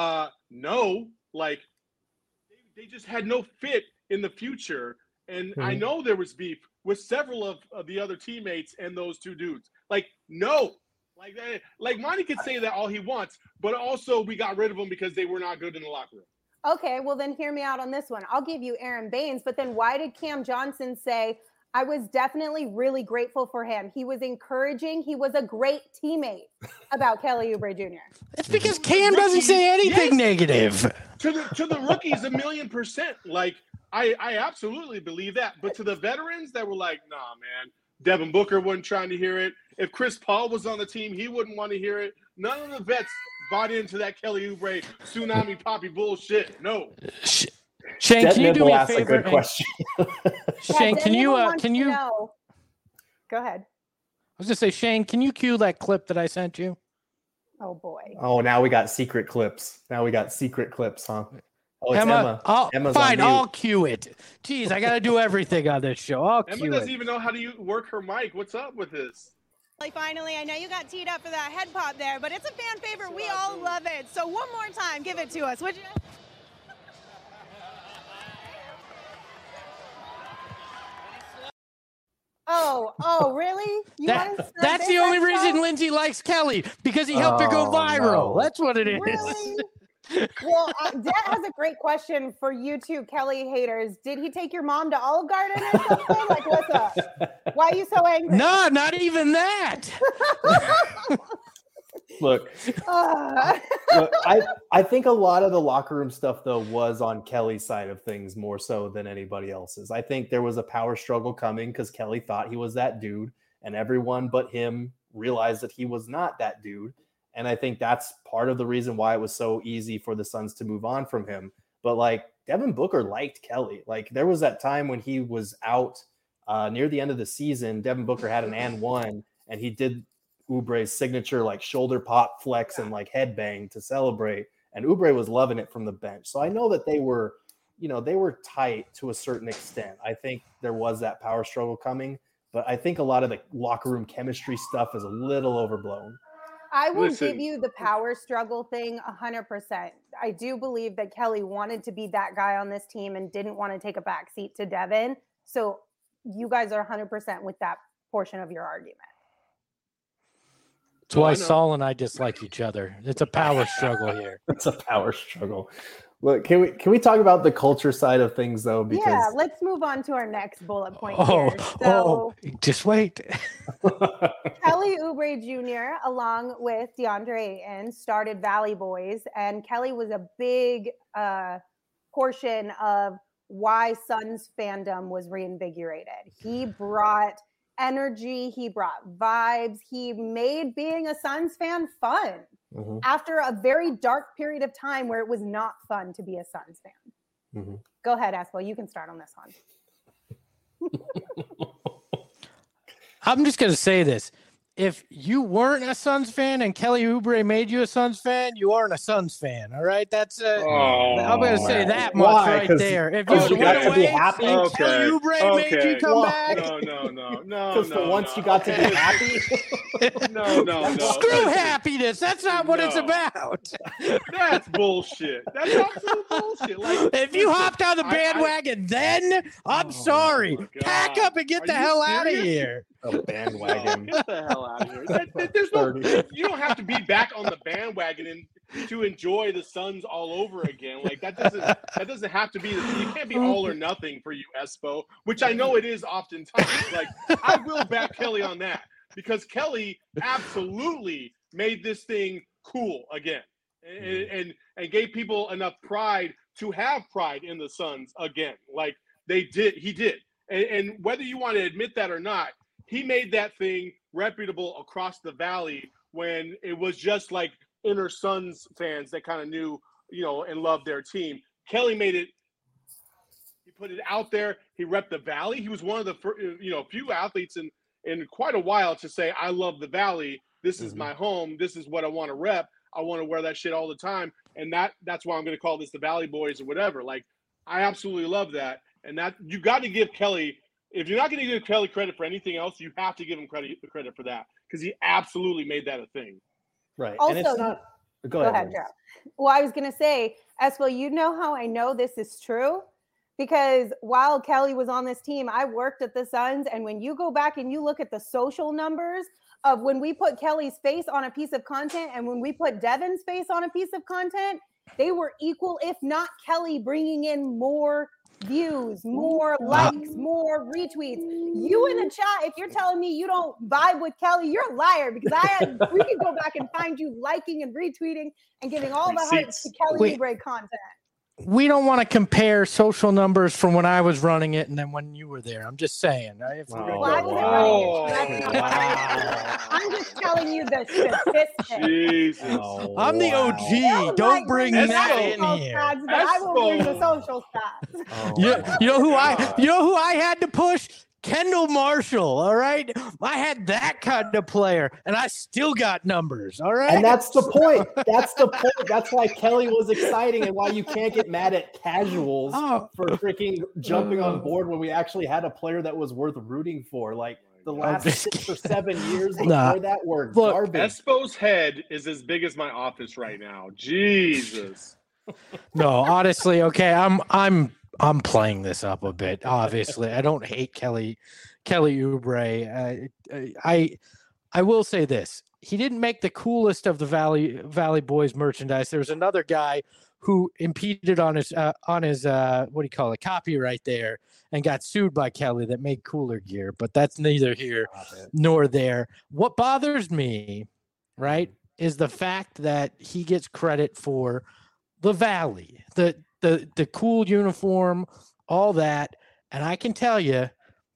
no, like they just had no fit in the future. And I know there was beef with several of the other teammates and those two dudes. Like, no, like Monty could say that all he wants, but also we got rid of them because they were not good in the locker room. Okay, well then hear me out on this one. I'll give you Aaron Baines, but then why did Cam Johnson say, I was definitely really grateful for him. He was encouraging. He was a great teammate about Kelly Oubre Jr. It's because Cam doesn't say anything negative. To the rookies, 1,000,000%. Like, I absolutely believe that. But to the veterans that were like, nah, man, Devin Booker wasn't trying to hear it. If Chris Paul was on the team, he wouldn't want to hear it. None of the vets bought into that Kelly Oubre tsunami poppy bullshit. No. Shane, can you do me a favor? A good question. Shane, can you go ahead? I was gonna say, Shane, can you cue that clip that I sent you? Oh boy. Oh, now we got secret clips. Huh? Oh, it's Emma. Emma's fine, I'll cue it. Jeez, I gotta do everything on this show. Emma doesn't even know how to work her mic. What's up with this? Finally, I know you got teed up for that head pop there, but it's a fan favorite. We all love it. So one more time, give it to us, would you? Oh, really? That's the only reason Lindsay likes Kelly, because he helped her go viral. No. That's what it is. Really? Well, Dad has a great question for you two Kelly haters. Did he take your mom to Olive Garden or something? Like, what's up? Why are you so angry? No, not even that. Look, I think a lot of the locker room stuff, though, was on Kelly's side of things more so than anybody else's. I think there was a power struggle coming because Kelly thought he was that dude, and everyone but him realized that he was not that dude. And I think that's part of the reason why it was so easy for the Suns to move on from him. But like Devin Booker liked Kelly. Like there was that time when he was out near the end of the season, Devin Booker had an and one, and he did Oubre's signature like shoulder pop flex and like headbang to celebrate. And Oubre was loving it from the bench. So I know that they were tight to a certain extent. I think there was that power struggle coming, but I think a lot of the locker room chemistry stuff is a little overblown. I will give you the power struggle thing 100%. I do believe that Kelly wanted to be that guy on this team and didn't want to take a backseat to Devin. So you guys are 100% with that portion of your argument. That's why Saul and I dislike each other. It's a power struggle here. It's a power struggle. Look, can we talk about the culture side of things though? Because let's move on to our next bullet point here. So, just wait. Kelly Oubre Jr. along with DeAndre Ayton started Valley Boys, and Kelly was a big portion of why Suns fandom was reinvigorated. He brought energy, he brought vibes, he made being a Suns fan fun. Mm-hmm. After a very dark period of time where it was not fun to be a Suns fan. Mm-hmm. Go ahead, Espo. You can start on this one. I'm just going to say this. If you weren't a Suns fan and Kelly Oubre made you a Suns fan, you aren't a Suns fan. All right, that's I'm going to say that much right there. If you went away and Kelly Oubre made you come back, no. Because for once you got to be happy. No. Screw happiness. That's not what it's about. That's bullshit. That's absolute bullshit. Like, if you hopped on the bandwagon, then I'm sorry. Pack up and get the hell out of here. A bandwagon. Get the hell out of here. There's no. You don't have to be back on the bandwagon to enjoy the Suns all over again. Like that doesn't have to be. You can't be all or nothing for you, Espo. Which I know it is oftentimes. Like I will back Kelly on that because Kelly absolutely made this thing cool again, and gave people enough pride to have pride in the Suns again. Like he did, and whether you want to admit that or not. He made that thing reputable across the valley when it was just like inner Suns fans that kind of knew, and loved their team. Kelly made it. He put it out there. He repped the valley. He was one of the few athletes in quite a while to say, "I love the valley. This is my home. This is what I want to rep. I want to wear that shit all the time." And that's why I'm going to call this the Valley Boys or whatever. Like, I absolutely love that. And that you got to give Kelly. If you're not going to give Kelly credit for anything else, you have to give him credit for that because he absolutely made that a thing. Right. Also, and it's not, go ahead, Joe. Well, I was going to say, Espo, you know how I know this is true? Because while Kelly was on this team, I worked at the Suns. And when you go back and you look at the social numbers of when we put Kelly's face on a piece of content and when we put Devin's face on a piece of content, they were equal, if not Kelly bringing in more views, more likes, more retweets. You in the chat, if you're telling me you don't vibe with Kelly, you're a liar because we can go back and find you liking and retweeting and giving all the hype to Kelly Oubre content. We don't want to compare social numbers from when I was running it and then when you were there. I'm just saying. I'm just telling you the statistics. Jesus. I'm the OG. Don't bring that in here. Stats, but I will bring the social stats. You know who I had to push? Kendall Marshall, all right? I had that kind of player, and I still got numbers, all right? And that's the point. That's why Kelly was exciting and why you can't get mad at casuals for freaking jumping on board when we actually had a player that was worth rooting for. Like, the last 6 or 7 years before that were garbage. Espo's head is as big as my office right now. Jesus. No, honestly, okay, I'm playing this up a bit. Obviously, I don't hate Kelly Oubre. I will say this: he didn't make the coolest of the Valley Boys merchandise. There was another guy who impeded on his what do you call it, copyright there, and got sued by Kelly that made cooler gear. But that's neither here nor there. What bothers me, right, is the fact that he gets credit for the Valley, the cool uniform, all that. And I can tell you,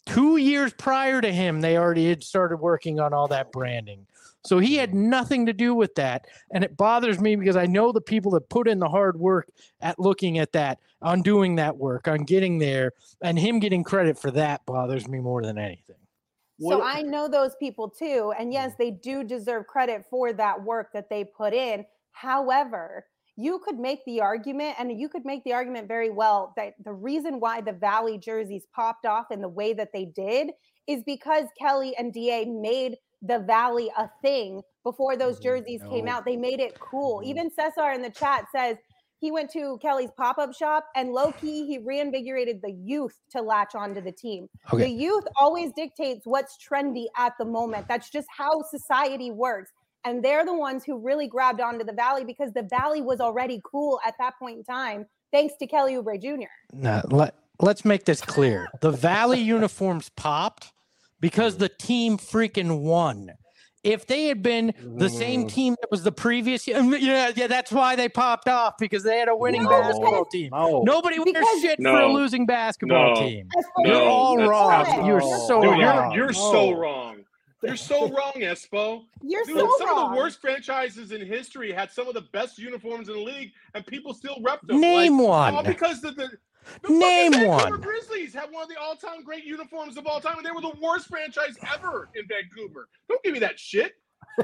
2 years prior to him, they already had started working on all that branding. So he had nothing to do with that. And it bothers me because I know the people that put in the hard work at looking at that, on doing that work, on getting there, and him getting credit for that bothers me more than anything. So I know those people too. And yes, they do deserve credit for that work that they put in. However, you could make the argument, and you could make the argument very well, that the reason why the Valley jerseys popped off in the way that they did is because Kelly and DA made the Valley a thing before those jerseys came out. They made it cool. Even Cesar in the chat says he went to Kelly's pop-up shop, and low-key, he reinvigorated the youth to latch onto the team. Okay. The youth always dictates what's trendy at the moment. That's just how society works. And they're the ones who really grabbed onto the Valley because the Valley was already cool at that point in time, thanks to Kelly Oubre Jr. Now, let's make this clear. The Valley uniforms popped because the team freaking won. If they had been the same team that was the previous year, yeah, that's why they popped off, because they had a winning basketball team. Nobody wears shit for a losing basketball team. You're all wrong. You're so wrong. You're so wrong. You're so wrong, Espo. You're Dude, so some wrong. of the worst franchises in history had some of the best uniforms in the league, and people still rep them. Name one. All because the Name fucking one. Vancouver Grizzlies had one of the all-time great uniforms of all time, and they were the worst franchise ever in Vancouver. Don't give me that shit.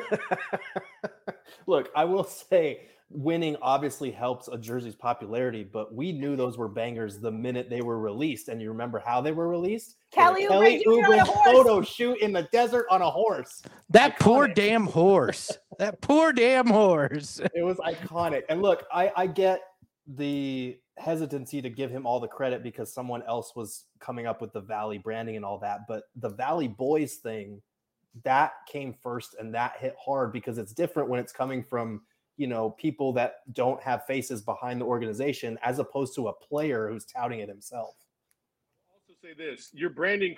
Look, I will say winning obviously helps a jersey's popularity, but we knew those were bangers the minute they were released. And you remember how they were released? Kelly Oubre photo shoot in the desert on a horse. That poor damn horse. That poor damn horse. It was iconic. And look, I get the hesitancy to give him all the credit because someone else was coming up with the Valley branding and all that. But the Valley Boys thing, that came first, and that hit hard because it's different when it's coming from, people that don't have faces behind the organization, as opposed to a player who's touting it himself. I'll also say this: your branding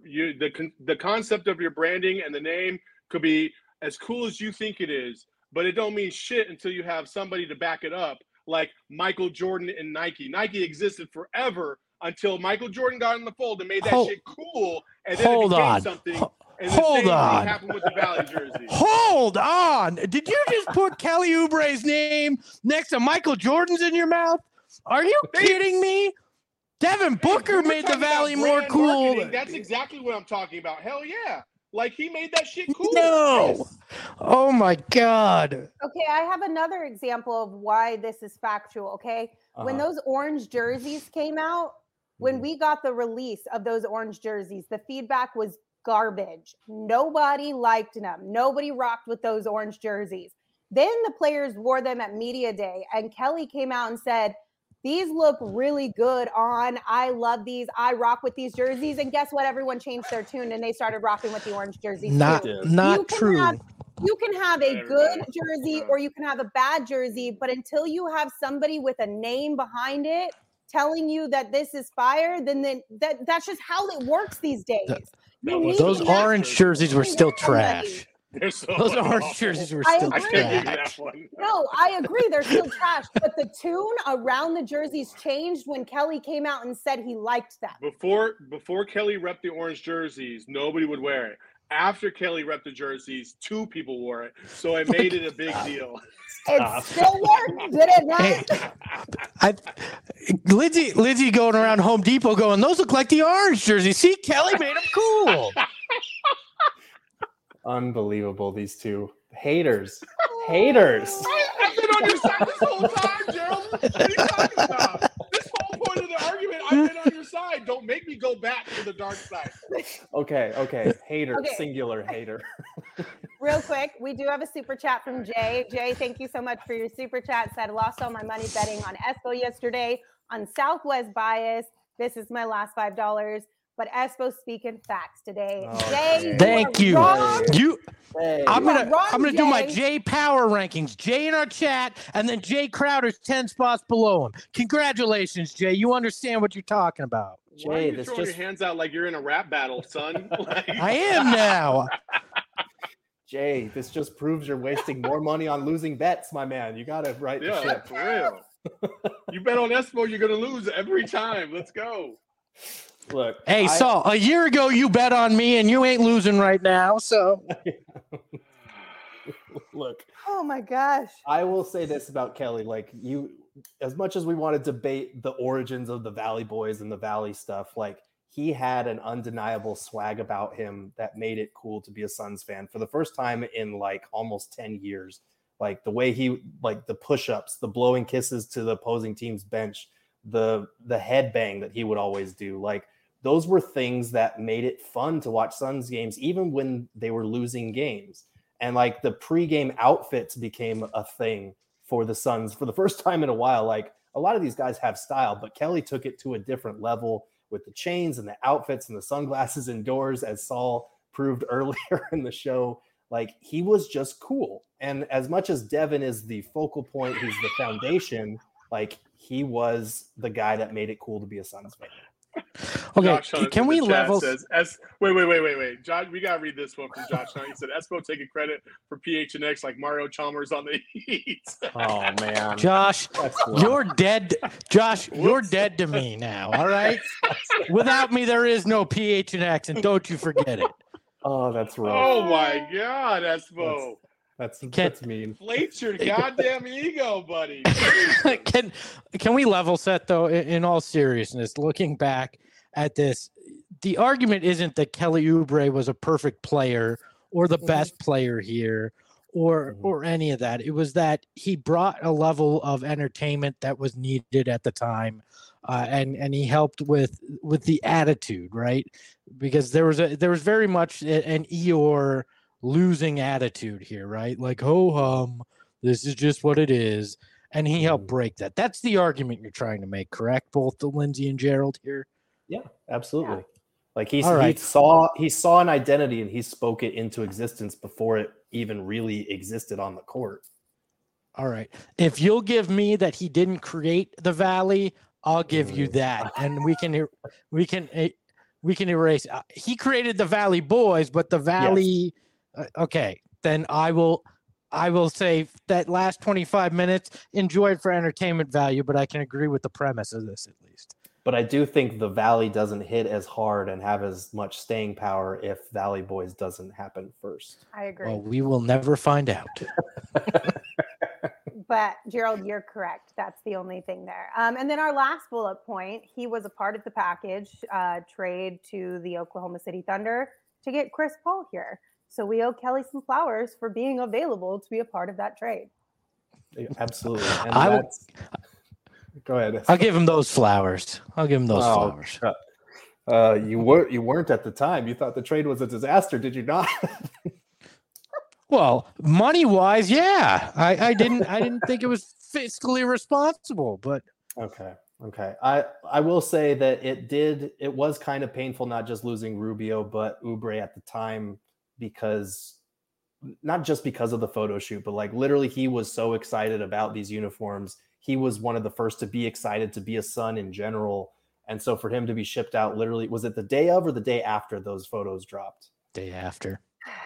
the concept of your branding and the name could be as cool as you think it is, but it don't mean shit until you have somebody to back it up. Like Michael Jordan and Nike. Nike existed forever until Michael Jordan got in the fold and made that shit cool, and then it became something. And the same thing happened with the Valley jersey. Hold on. Did you just put Kelly Oubre's name next to Michael Jordan's in your mouth? Are you kidding me? Devin Booker made the Valley more cool. Marketing. That's exactly what I'm talking about. Hell yeah. Like, he made that shit cool. No. Yes. Oh, my God. Okay, I have another example of why this is factual, okay? When those orange jerseys came out, when we got the release of those orange jerseys, the feedback was garbage. Nobody liked them. Nobody rocked with those orange jerseys. Then the players wore them at media day, and Kelly came out and said, these look really good on. I love these. I rock with these jerseys. And guess what? Everyone changed their tune and they started rocking with the orange jerseys. Not true. You can have a good jersey or you can have a bad jersey, but until you have somebody with a name behind it telling you that this is fire, then that's just how it works these days. Those orange jerseys were still trash. Those orange jerseys were still trash. No, I agree. They're still trash. But the tune around the jerseys changed when Kelly came out and said he liked them. Before Kelly repped the orange jerseys, nobody would wear it. After Kelly repped the jerseys, 2 people wore it. So it made it a big deal. It still worked, did it not? Lindsay going around Home Depot going, those look like the orange jerseys. See, Kelly made them cool. Unbelievable, these two. Haters. I've been on your side this whole time, Gerald. What are you talking about? This whole point of the argument, I've been on your side. Don't make me go back to the dark side. Okay. Hater, Okay. Singular hater. Real quick, we do have a super chat from Jay. Jay, thank you so much for your super chat. Said, lost all my money betting on Espo yesterday on Southwest Bias. This is my last $5. But Espo speaking facts today. Jay, thank you. Wrong. I'm gonna do my Jay. Jay Power rankings. Jay in our chat, and then Jay Crowder's 10 spots below him. Congratulations, Jay. You understand what you're talking about. Why are you throwing your hands out like you're in a rap battle, son? I am now. Jay, this just proves you're wasting more money on losing bets, my man. You gotta right the ship. For real. You bet on Espo, you're gonna lose every time. Let's go. Look, Hey, Saul, a year ago you bet on me and you ain't losing right now. So look, Oh my gosh. I will say this about Kelly. Like, as much as we want to debate the origins of the Valley Boys and the Valley stuff, like, he had an undeniable swag about him that made it cool to be a Suns fan for the first time in like almost 10 years. Like the way he, like the push-ups, the blowing kisses to the opposing team's bench, the headbang that he would always do. Like, those were things that made it fun to watch Suns games, even when they were losing games. And like the pregame outfits became a thing for the Suns for the first time in a while. Like, a lot of these guys have style, but Kelly took it to a different level with the chains and the outfits and the sunglasses indoors, as Saul proved earlier in the show. Like, he was just cool. And as much as Devin is the focal point, he's the foundation, like, he was the guy that made it cool to be a Suns fan. Okay, Josh can we level? Says, wait. Josh, we gotta read this one from Josh. He said, "Espo taking credit for PHNX like Mario Chalmers on the Heat." Oh man, Josh, you're dead. Josh, you're dead to me now. All right. Without me, there is no PHNX, and don't you forget it. Oh, that's rough. Oh my God, Espo. That's mean. Inflate your goddamn ego, buddy. Can we level set though? In all seriousness, looking back at this, the argument isn't that Kelly Oubre was a perfect player or the best player here or any of that. It was that he brought a level of entertainment that was needed at the time, and he helped with the attitude, right? Because there was very much an Eeyore losing attitude here, right? Like, ho hum, this is just what it is, and he helped break that. That's the argument you're trying to make, correct? Both the Lindsay and Gerald here. Yeah, absolutely. Yeah. Like he saw an identity and he spoke it into existence before it even really existed on the court. All right. If you'll give me that he didn't create the Valley, I'll give you that, and we can erase. He created the Valley Boys, but the Valley. Yes. Okay, then I will say that last 25 minutes, enjoy it for entertainment value, but I can agree with the premise of this at least. But I do think the Valley doesn't hit as hard and have as much staying power if Valley Boys doesn't happen first. I agree. Well, we will never find out. But Gerald, you're correct. That's the only thing there. And then our last bullet point, he was a part of the package trade to the Oklahoma City Thunder to get Chris Paul here. So we owe Kelly some flowers for being available to be a part of that trade. Absolutely. And go ahead. I'll give him those flowers. flowers. You weren't at the time. You thought the trade was a disaster, did you not? Well, money-wise, yeah. I didn't think it was fiscally responsible, but okay. I will say that it was kind of painful not just losing Rubio, but Oubre at the time, because not just because of the photo shoot, but like literally he was so excited about these uniforms. He was one of the first to be excited to be a Sun in general. And so for him to be shipped out, literally, was it the day of or the day after those photos dropped? Day after.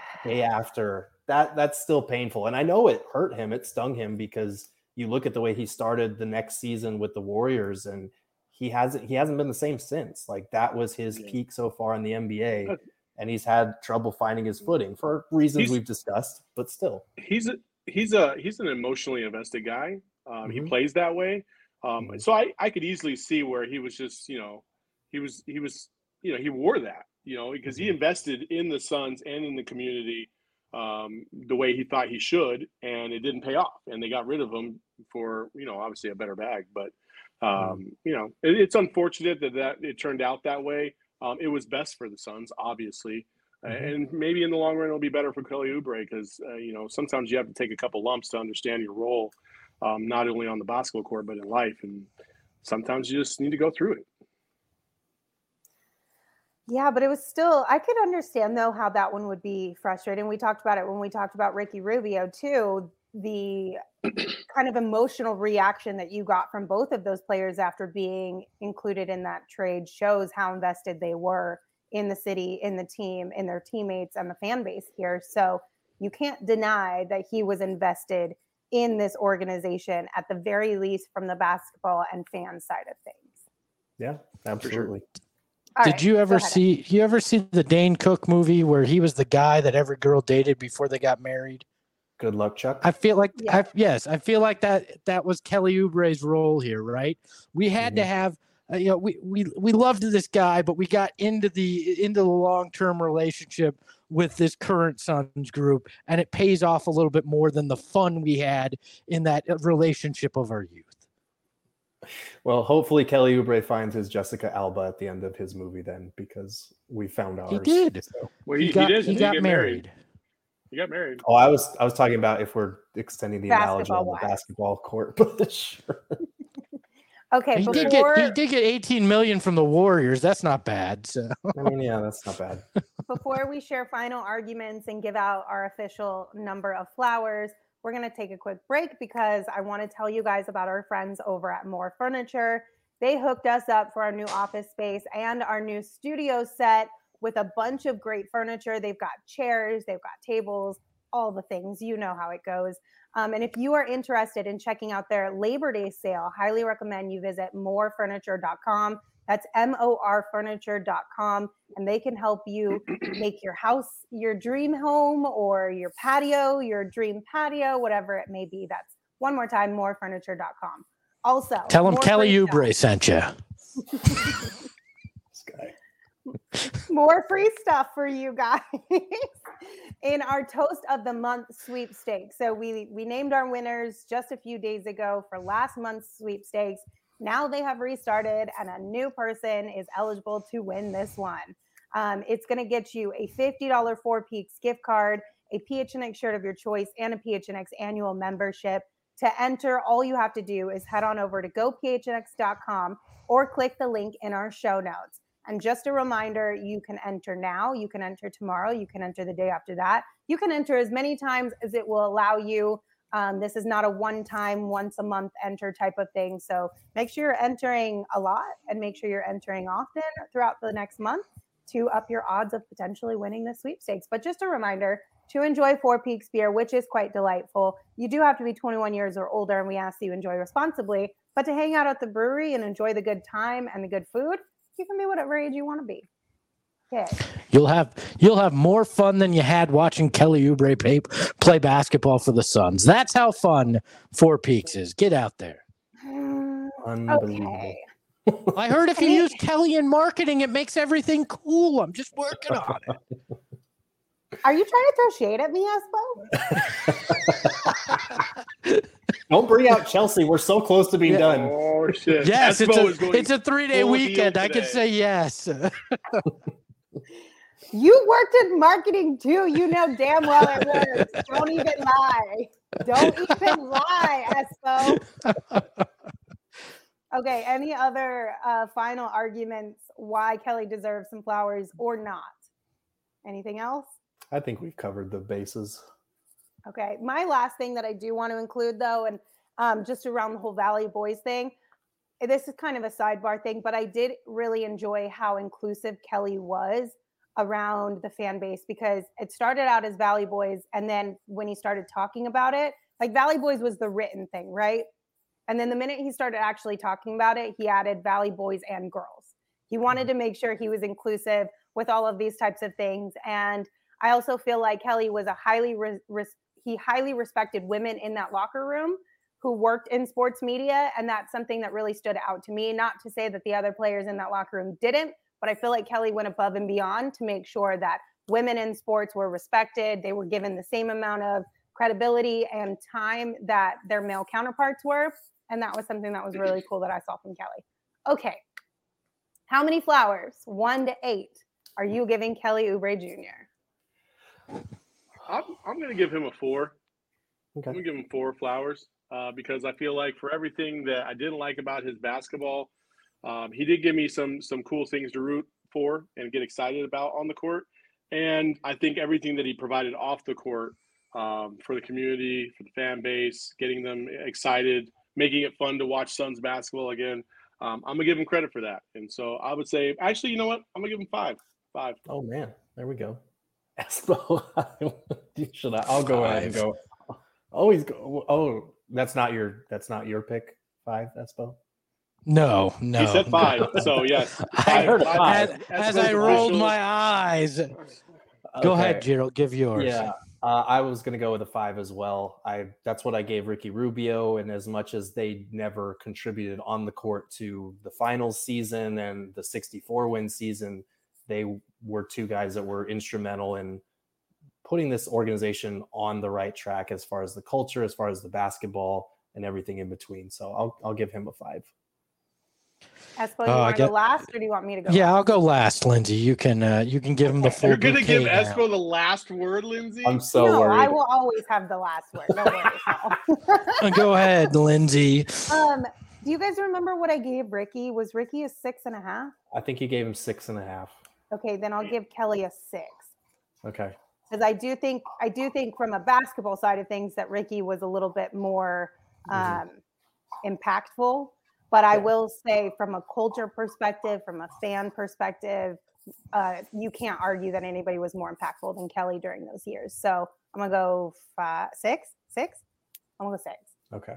That's still painful. And I know it hurt him. It stung him, because you look at the way he started the next season with the Warriors, and he hasn't been the same since. Like, that was his peak so far in the NBA. And he's had trouble finding his footing for reasons we've discussed, but still. He's an emotionally invested guy. He plays that way. So I could easily see where he was just, he wore that, because he invested in the Suns and in the community the way he thought he should, and it didn't pay off. And they got rid of him for, obviously a better bag. But, it's unfortunate that it turned out that way. It was best for the Suns, obviously. And maybe in the long run, it'll be better for Kelly Oubre, because, sometimes you have to take a couple lumps to understand your role, not only on the basketball court, but in life. And sometimes you just need to go through it. Yeah, but it was still, I could understand, though, how that one would be frustrating. We talked about it when we talked about Ricky Rubio, too. The kind of emotional reaction that you got from both of those players after being included in that trade shows how invested they were in the city, in the team, in their teammates, and the fan base here. So you can't deny that he was invested in this organization, at the very least, from the basketball and fan side of things. Yeah, absolutely. All Did right, you go ever ahead. see the Dane Cook movie where he was the guy that every girl dated before they got married? Good luck, Chuck. I feel like Yeah. I feel like that was Kelly Oubre's role here, right? We had to have we loved this guy, but we got into the long-term relationship with this current Suns group, and it pays off a little bit more than the fun we had in that relationship of our youth. Well, hopefully Kelly Oubre finds his Jessica Alba at the end of his movie then, because we found ours. He did. So. Well, He he got get married. He got married. Oh, I was talking about if we're extending the analogy on the Basketball-wise. basketball court, but sure. Okay, He before did get 18 million from the Warriors. That's not bad. So I mean, yeah, that's not bad. before we share final arguments and give out our official number of flowers, we're going to take a quick break because I want to tell you guys about our friends over at More Furniture. They hooked us up for our new office space and our new studio set with a bunch of great furniture. They've got chairs, they've got tables, all the things. You know how it goes. And if you are interested in checking out their Labor Day sale, highly recommend you visit morefurniture.com. That's morfurniture.com. And they can help you make your house your dream home or your patio, your dream patio, whatever it may be. That's one more time, morefurniture.com. Also, tell him more Kelly free Oubre sent you. This guy. more free stuff for you guys in our Toast of the Month sweepstakes. So we named our winners just a few days ago for last month's sweepstakes. Now they have restarted and a new person is eligible to win this one. It's going to get you a $50 Four Peaks gift card, a PHNX shirt of your choice, and a PHNX annual membership. To enter, all you have to do is head on over to gophnx.com or click the link in our show notes. And just a reminder, you can enter now, you can enter tomorrow, you can enter the day after that. You can enter as many times as it will allow you. This is not a one-time, once-a-month enter type of thing. So make sure you're entering a lot and make sure you're entering often throughout the next month to up your odds of potentially winning the sweepstakes. But just a reminder, to enjoy Four Peaks beer, which is quite delightful, you do have to be 21 years or older, and we ask that you enjoy responsibly. But to hang out at the brewery and enjoy the good time and the good food, you can be whatever age you want to be. Okay. You'll have more fun than you had watching Kelly Oubre play basketball for the Suns. That's how fun Four Peaks is. Get out there. Unbelievable. Okay. I heard if you use Kelly in marketing, it makes everything cool. I'm just working on it. Are you trying to throw shade at me, Espo? Don't bring out Chelsea. We're so close to being done. Oh shit! Yes, Espo is going it's a 3-day full weekend. heel I can today. say yes. You worked in marketing too. You know damn well it works. Don't even lie. Don't even lie, Espo. Okay, any other final arguments why Kelly deserves some flowers or not? Anything else? I think we've covered the bases. Okay, my last thing that I do want to include though, and just around the whole Valley Boys thing, this is kind of a sidebar thing, but I did really enjoy how inclusive Kelly was around the fan base, because it started out as Valley Boys, and then when he started talking about it, like Valley Boys was the written thing, right? And then the minute he started actually talking about it, he added Valley Boys and girls. He wanted to make sure he was inclusive with all of these types of things. And I also feel like Kelly was a highly respected women in that locker room who worked in sports media. And that's something that really stood out to me. Not to say that the other players in that locker room didn't, but I feel like Kelly went above and beyond to make sure that women in sports were respected. They were given the same amount of credibility and time that their male counterparts were. And that was something that was really cool that I saw from Kelly. Okay. How many flowers, 1 to 8, are you giving Kelly Oubre Jr.? I'm going to give him a 4. Okay. I'm going to give him 4 flowers because I feel like for everything that I didn't like about his basketball, he did give me some cool things to root for and get excited about on the court. And I think everything that he provided off the court for the community, for the fan base, getting them excited, making it fun to watch Suns basketball again. I'm going to give him credit for that. And so I would say, actually, you know what? I'm going to give him 5. 5. Oh, man. There we go. Espo. I'll go ahead and go. Always go. Oh, that's not your pick, 5, Espo? No. He said 5. So yes, I heard five. five. As I rolled my eyes. Go ahead, Gerald. Give yours. Yeah, I was going to go with a 5 as well. That's what I gave Ricky Rubio, and as much as they never contributed on the court to the finals season and the 64-win season, they were two guys that were instrumental in putting this organization on the right track as far as the culture, as far as the basketball, and everything in between. So I'll give him a 5. Espo, you want to go last, or do you want me to go? Yeah, last? I'll go last, Lindsay. You can give him the full. You're gonna give now. Espo the last word, Lindsay? I'm so no, worried. I will always have the last word. No worries. Go ahead, Lindsay. Do you guys remember what I gave Ricky? Was Ricky a 6.5? I think you gave him 6.5. Okay, then I'll give Kelly a 6. Okay. Because I do think from a basketball side of things that Ricky was a little bit more impactful. But I will say from a culture perspective, from a fan perspective, you can't argue that anybody was more impactful than Kelly during those years. So I'm going to go 6. 6? I'm going to go 6. Okay.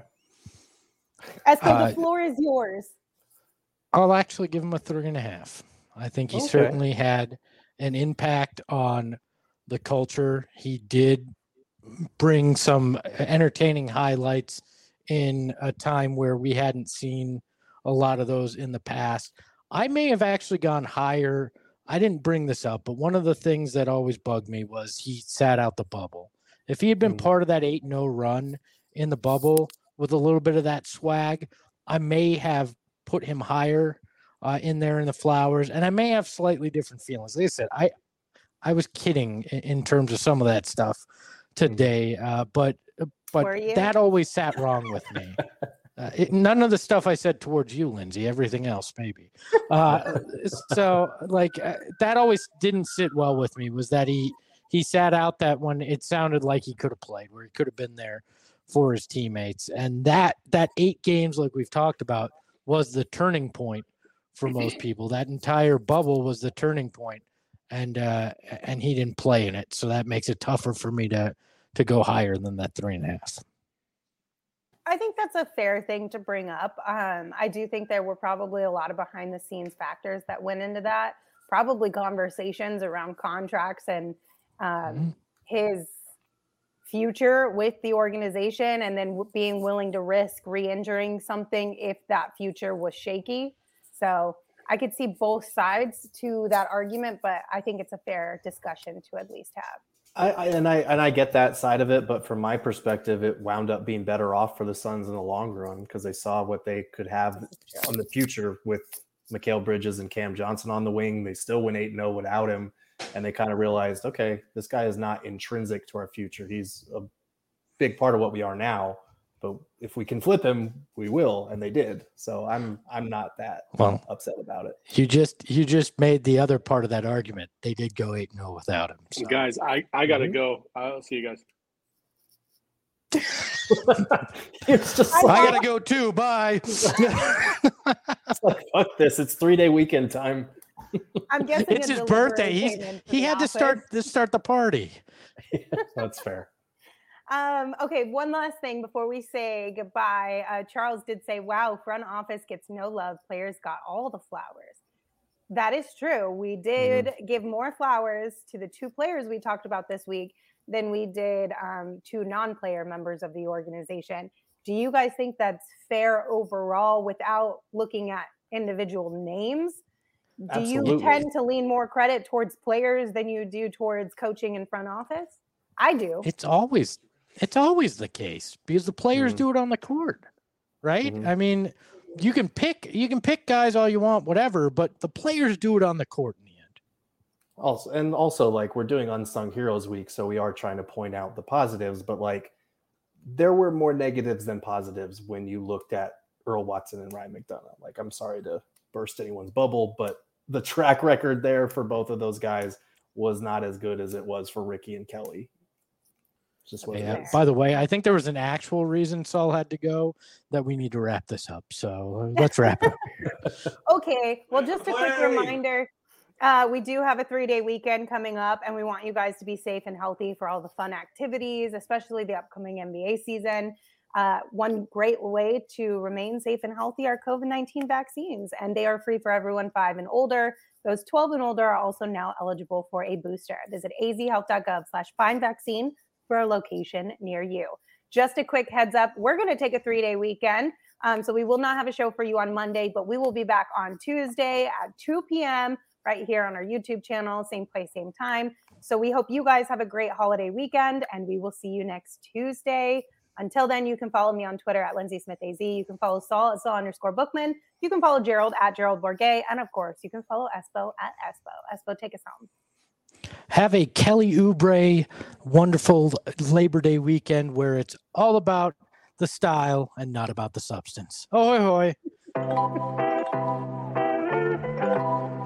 Espo, the floor is yours. I'll actually give him a 3.5. I think he certainly had an impact on the culture. He did bring some entertaining highlights in a time where we hadn't seen a lot of those in the past. I may have actually gone higher. I didn't bring this up, but one of the things that always bugged me was he sat out the bubble. If he had been part of that 8-0 run in the bubble with a little bit of that swag, I may have put him higher in there in the Flowers, and I may have slightly different feelings. Like I said, I was kidding in terms of some of that stuff today, but that always sat wrong with me. None of the stuff I said towards you, Lindsay, everything else maybe. That always didn't sit well with me, was that he sat out that when it sounded like he could have played, where he could have been there for his teammates. And that 8 games, like we've talked about, was the turning point for most people. That entire bubble was the turning point, and he didn't play in it. So that makes it tougher for me to go higher than that 3.5. I think that's a fair thing to bring up. I do think there were probably a lot of behind the scenes factors that went into that, probably conversations around contracts and his future with the organization, and then being willing to risk re-injuring something if that future was shaky. So I could see both sides to that argument, but I think it's a fair discussion to at least have. I get that side of it, but from my perspective, it wound up being better off for the Suns in the long run because they saw what they could have in the future with Mikal Bridges and Cam Johnson on the wing. They still went 8-0 without him, and they kind of realized, okay, this guy is not intrinsic to our future. He's a big part of what we are now, but if we can flip him, we will, and they did. So I'm not that upset about it. You just made the other part of that argument. They did go 8-0 without him. So. Guys, I gotta go. I'll see you guys. It's just I gotta go too. Bye. It's like, fuck this. It's 3-day weekend time. I'm guessing it's his birthday. He had to start the party. That's fair. Okay, one last thing before we say goodbye. Charles did say, wow, front office gets no love. Players got all the flowers. That is true. We did give more flowers to the 2 players we talked about this week than we did 2 non-player members of the organization. Do you guys think that's fair overall without looking at individual names? Absolutely. You tend to lean more credit towards players than you do towards coaching and front office? I do. It's always the case because the players do it on the court, right? I mean, you can pick guys all you want, whatever, but the players do it on the court in the end. Also, like, we're doing Unsung Heroes Week, so we are trying to point out the positives, but like there were more negatives than positives when you looked at Earl Watson and Ryan McDonough. Like, I'm sorry to burst anyone's bubble, but the track record there for both of those guys was not as good as it was for Ricky and Kelly. Just what it is. By the way, I think there was an actual reason Saul had to go that we need to wrap this up. So let's wrap it up here. Okay. Well, just a quick reminder. We do have a 3-day weekend coming up, and we want you guys to be safe and healthy for all the fun activities, especially the upcoming NBA season. One great way to remain safe and healthy are COVID-19 vaccines, and they are free for everyone 5 and older. Those 12 and older are also now eligible for a booster. Visit azhealth.gov/findvaccine for a location near you. Just a quick heads up, we're going to take a 3-day weekend. So we will not have a show for you on Monday, but we will be back on Tuesday at 2 p.m. right here on our YouTube channel, same place, same time. So we hope you guys have a great holiday weekend, and we will see you next Tuesday. Until then, you can follow me on Twitter at Lindsay Smith AZ. You can follow Saul at Saul_Bookman. You can follow Gerald at Gerald Bourget. And of course, you can follow Espo at Espo. Espo, take us home. Have a Kelly Oubre wonderful Labor Day weekend where it's all about the style and not about the substance. Ahoy, hoy.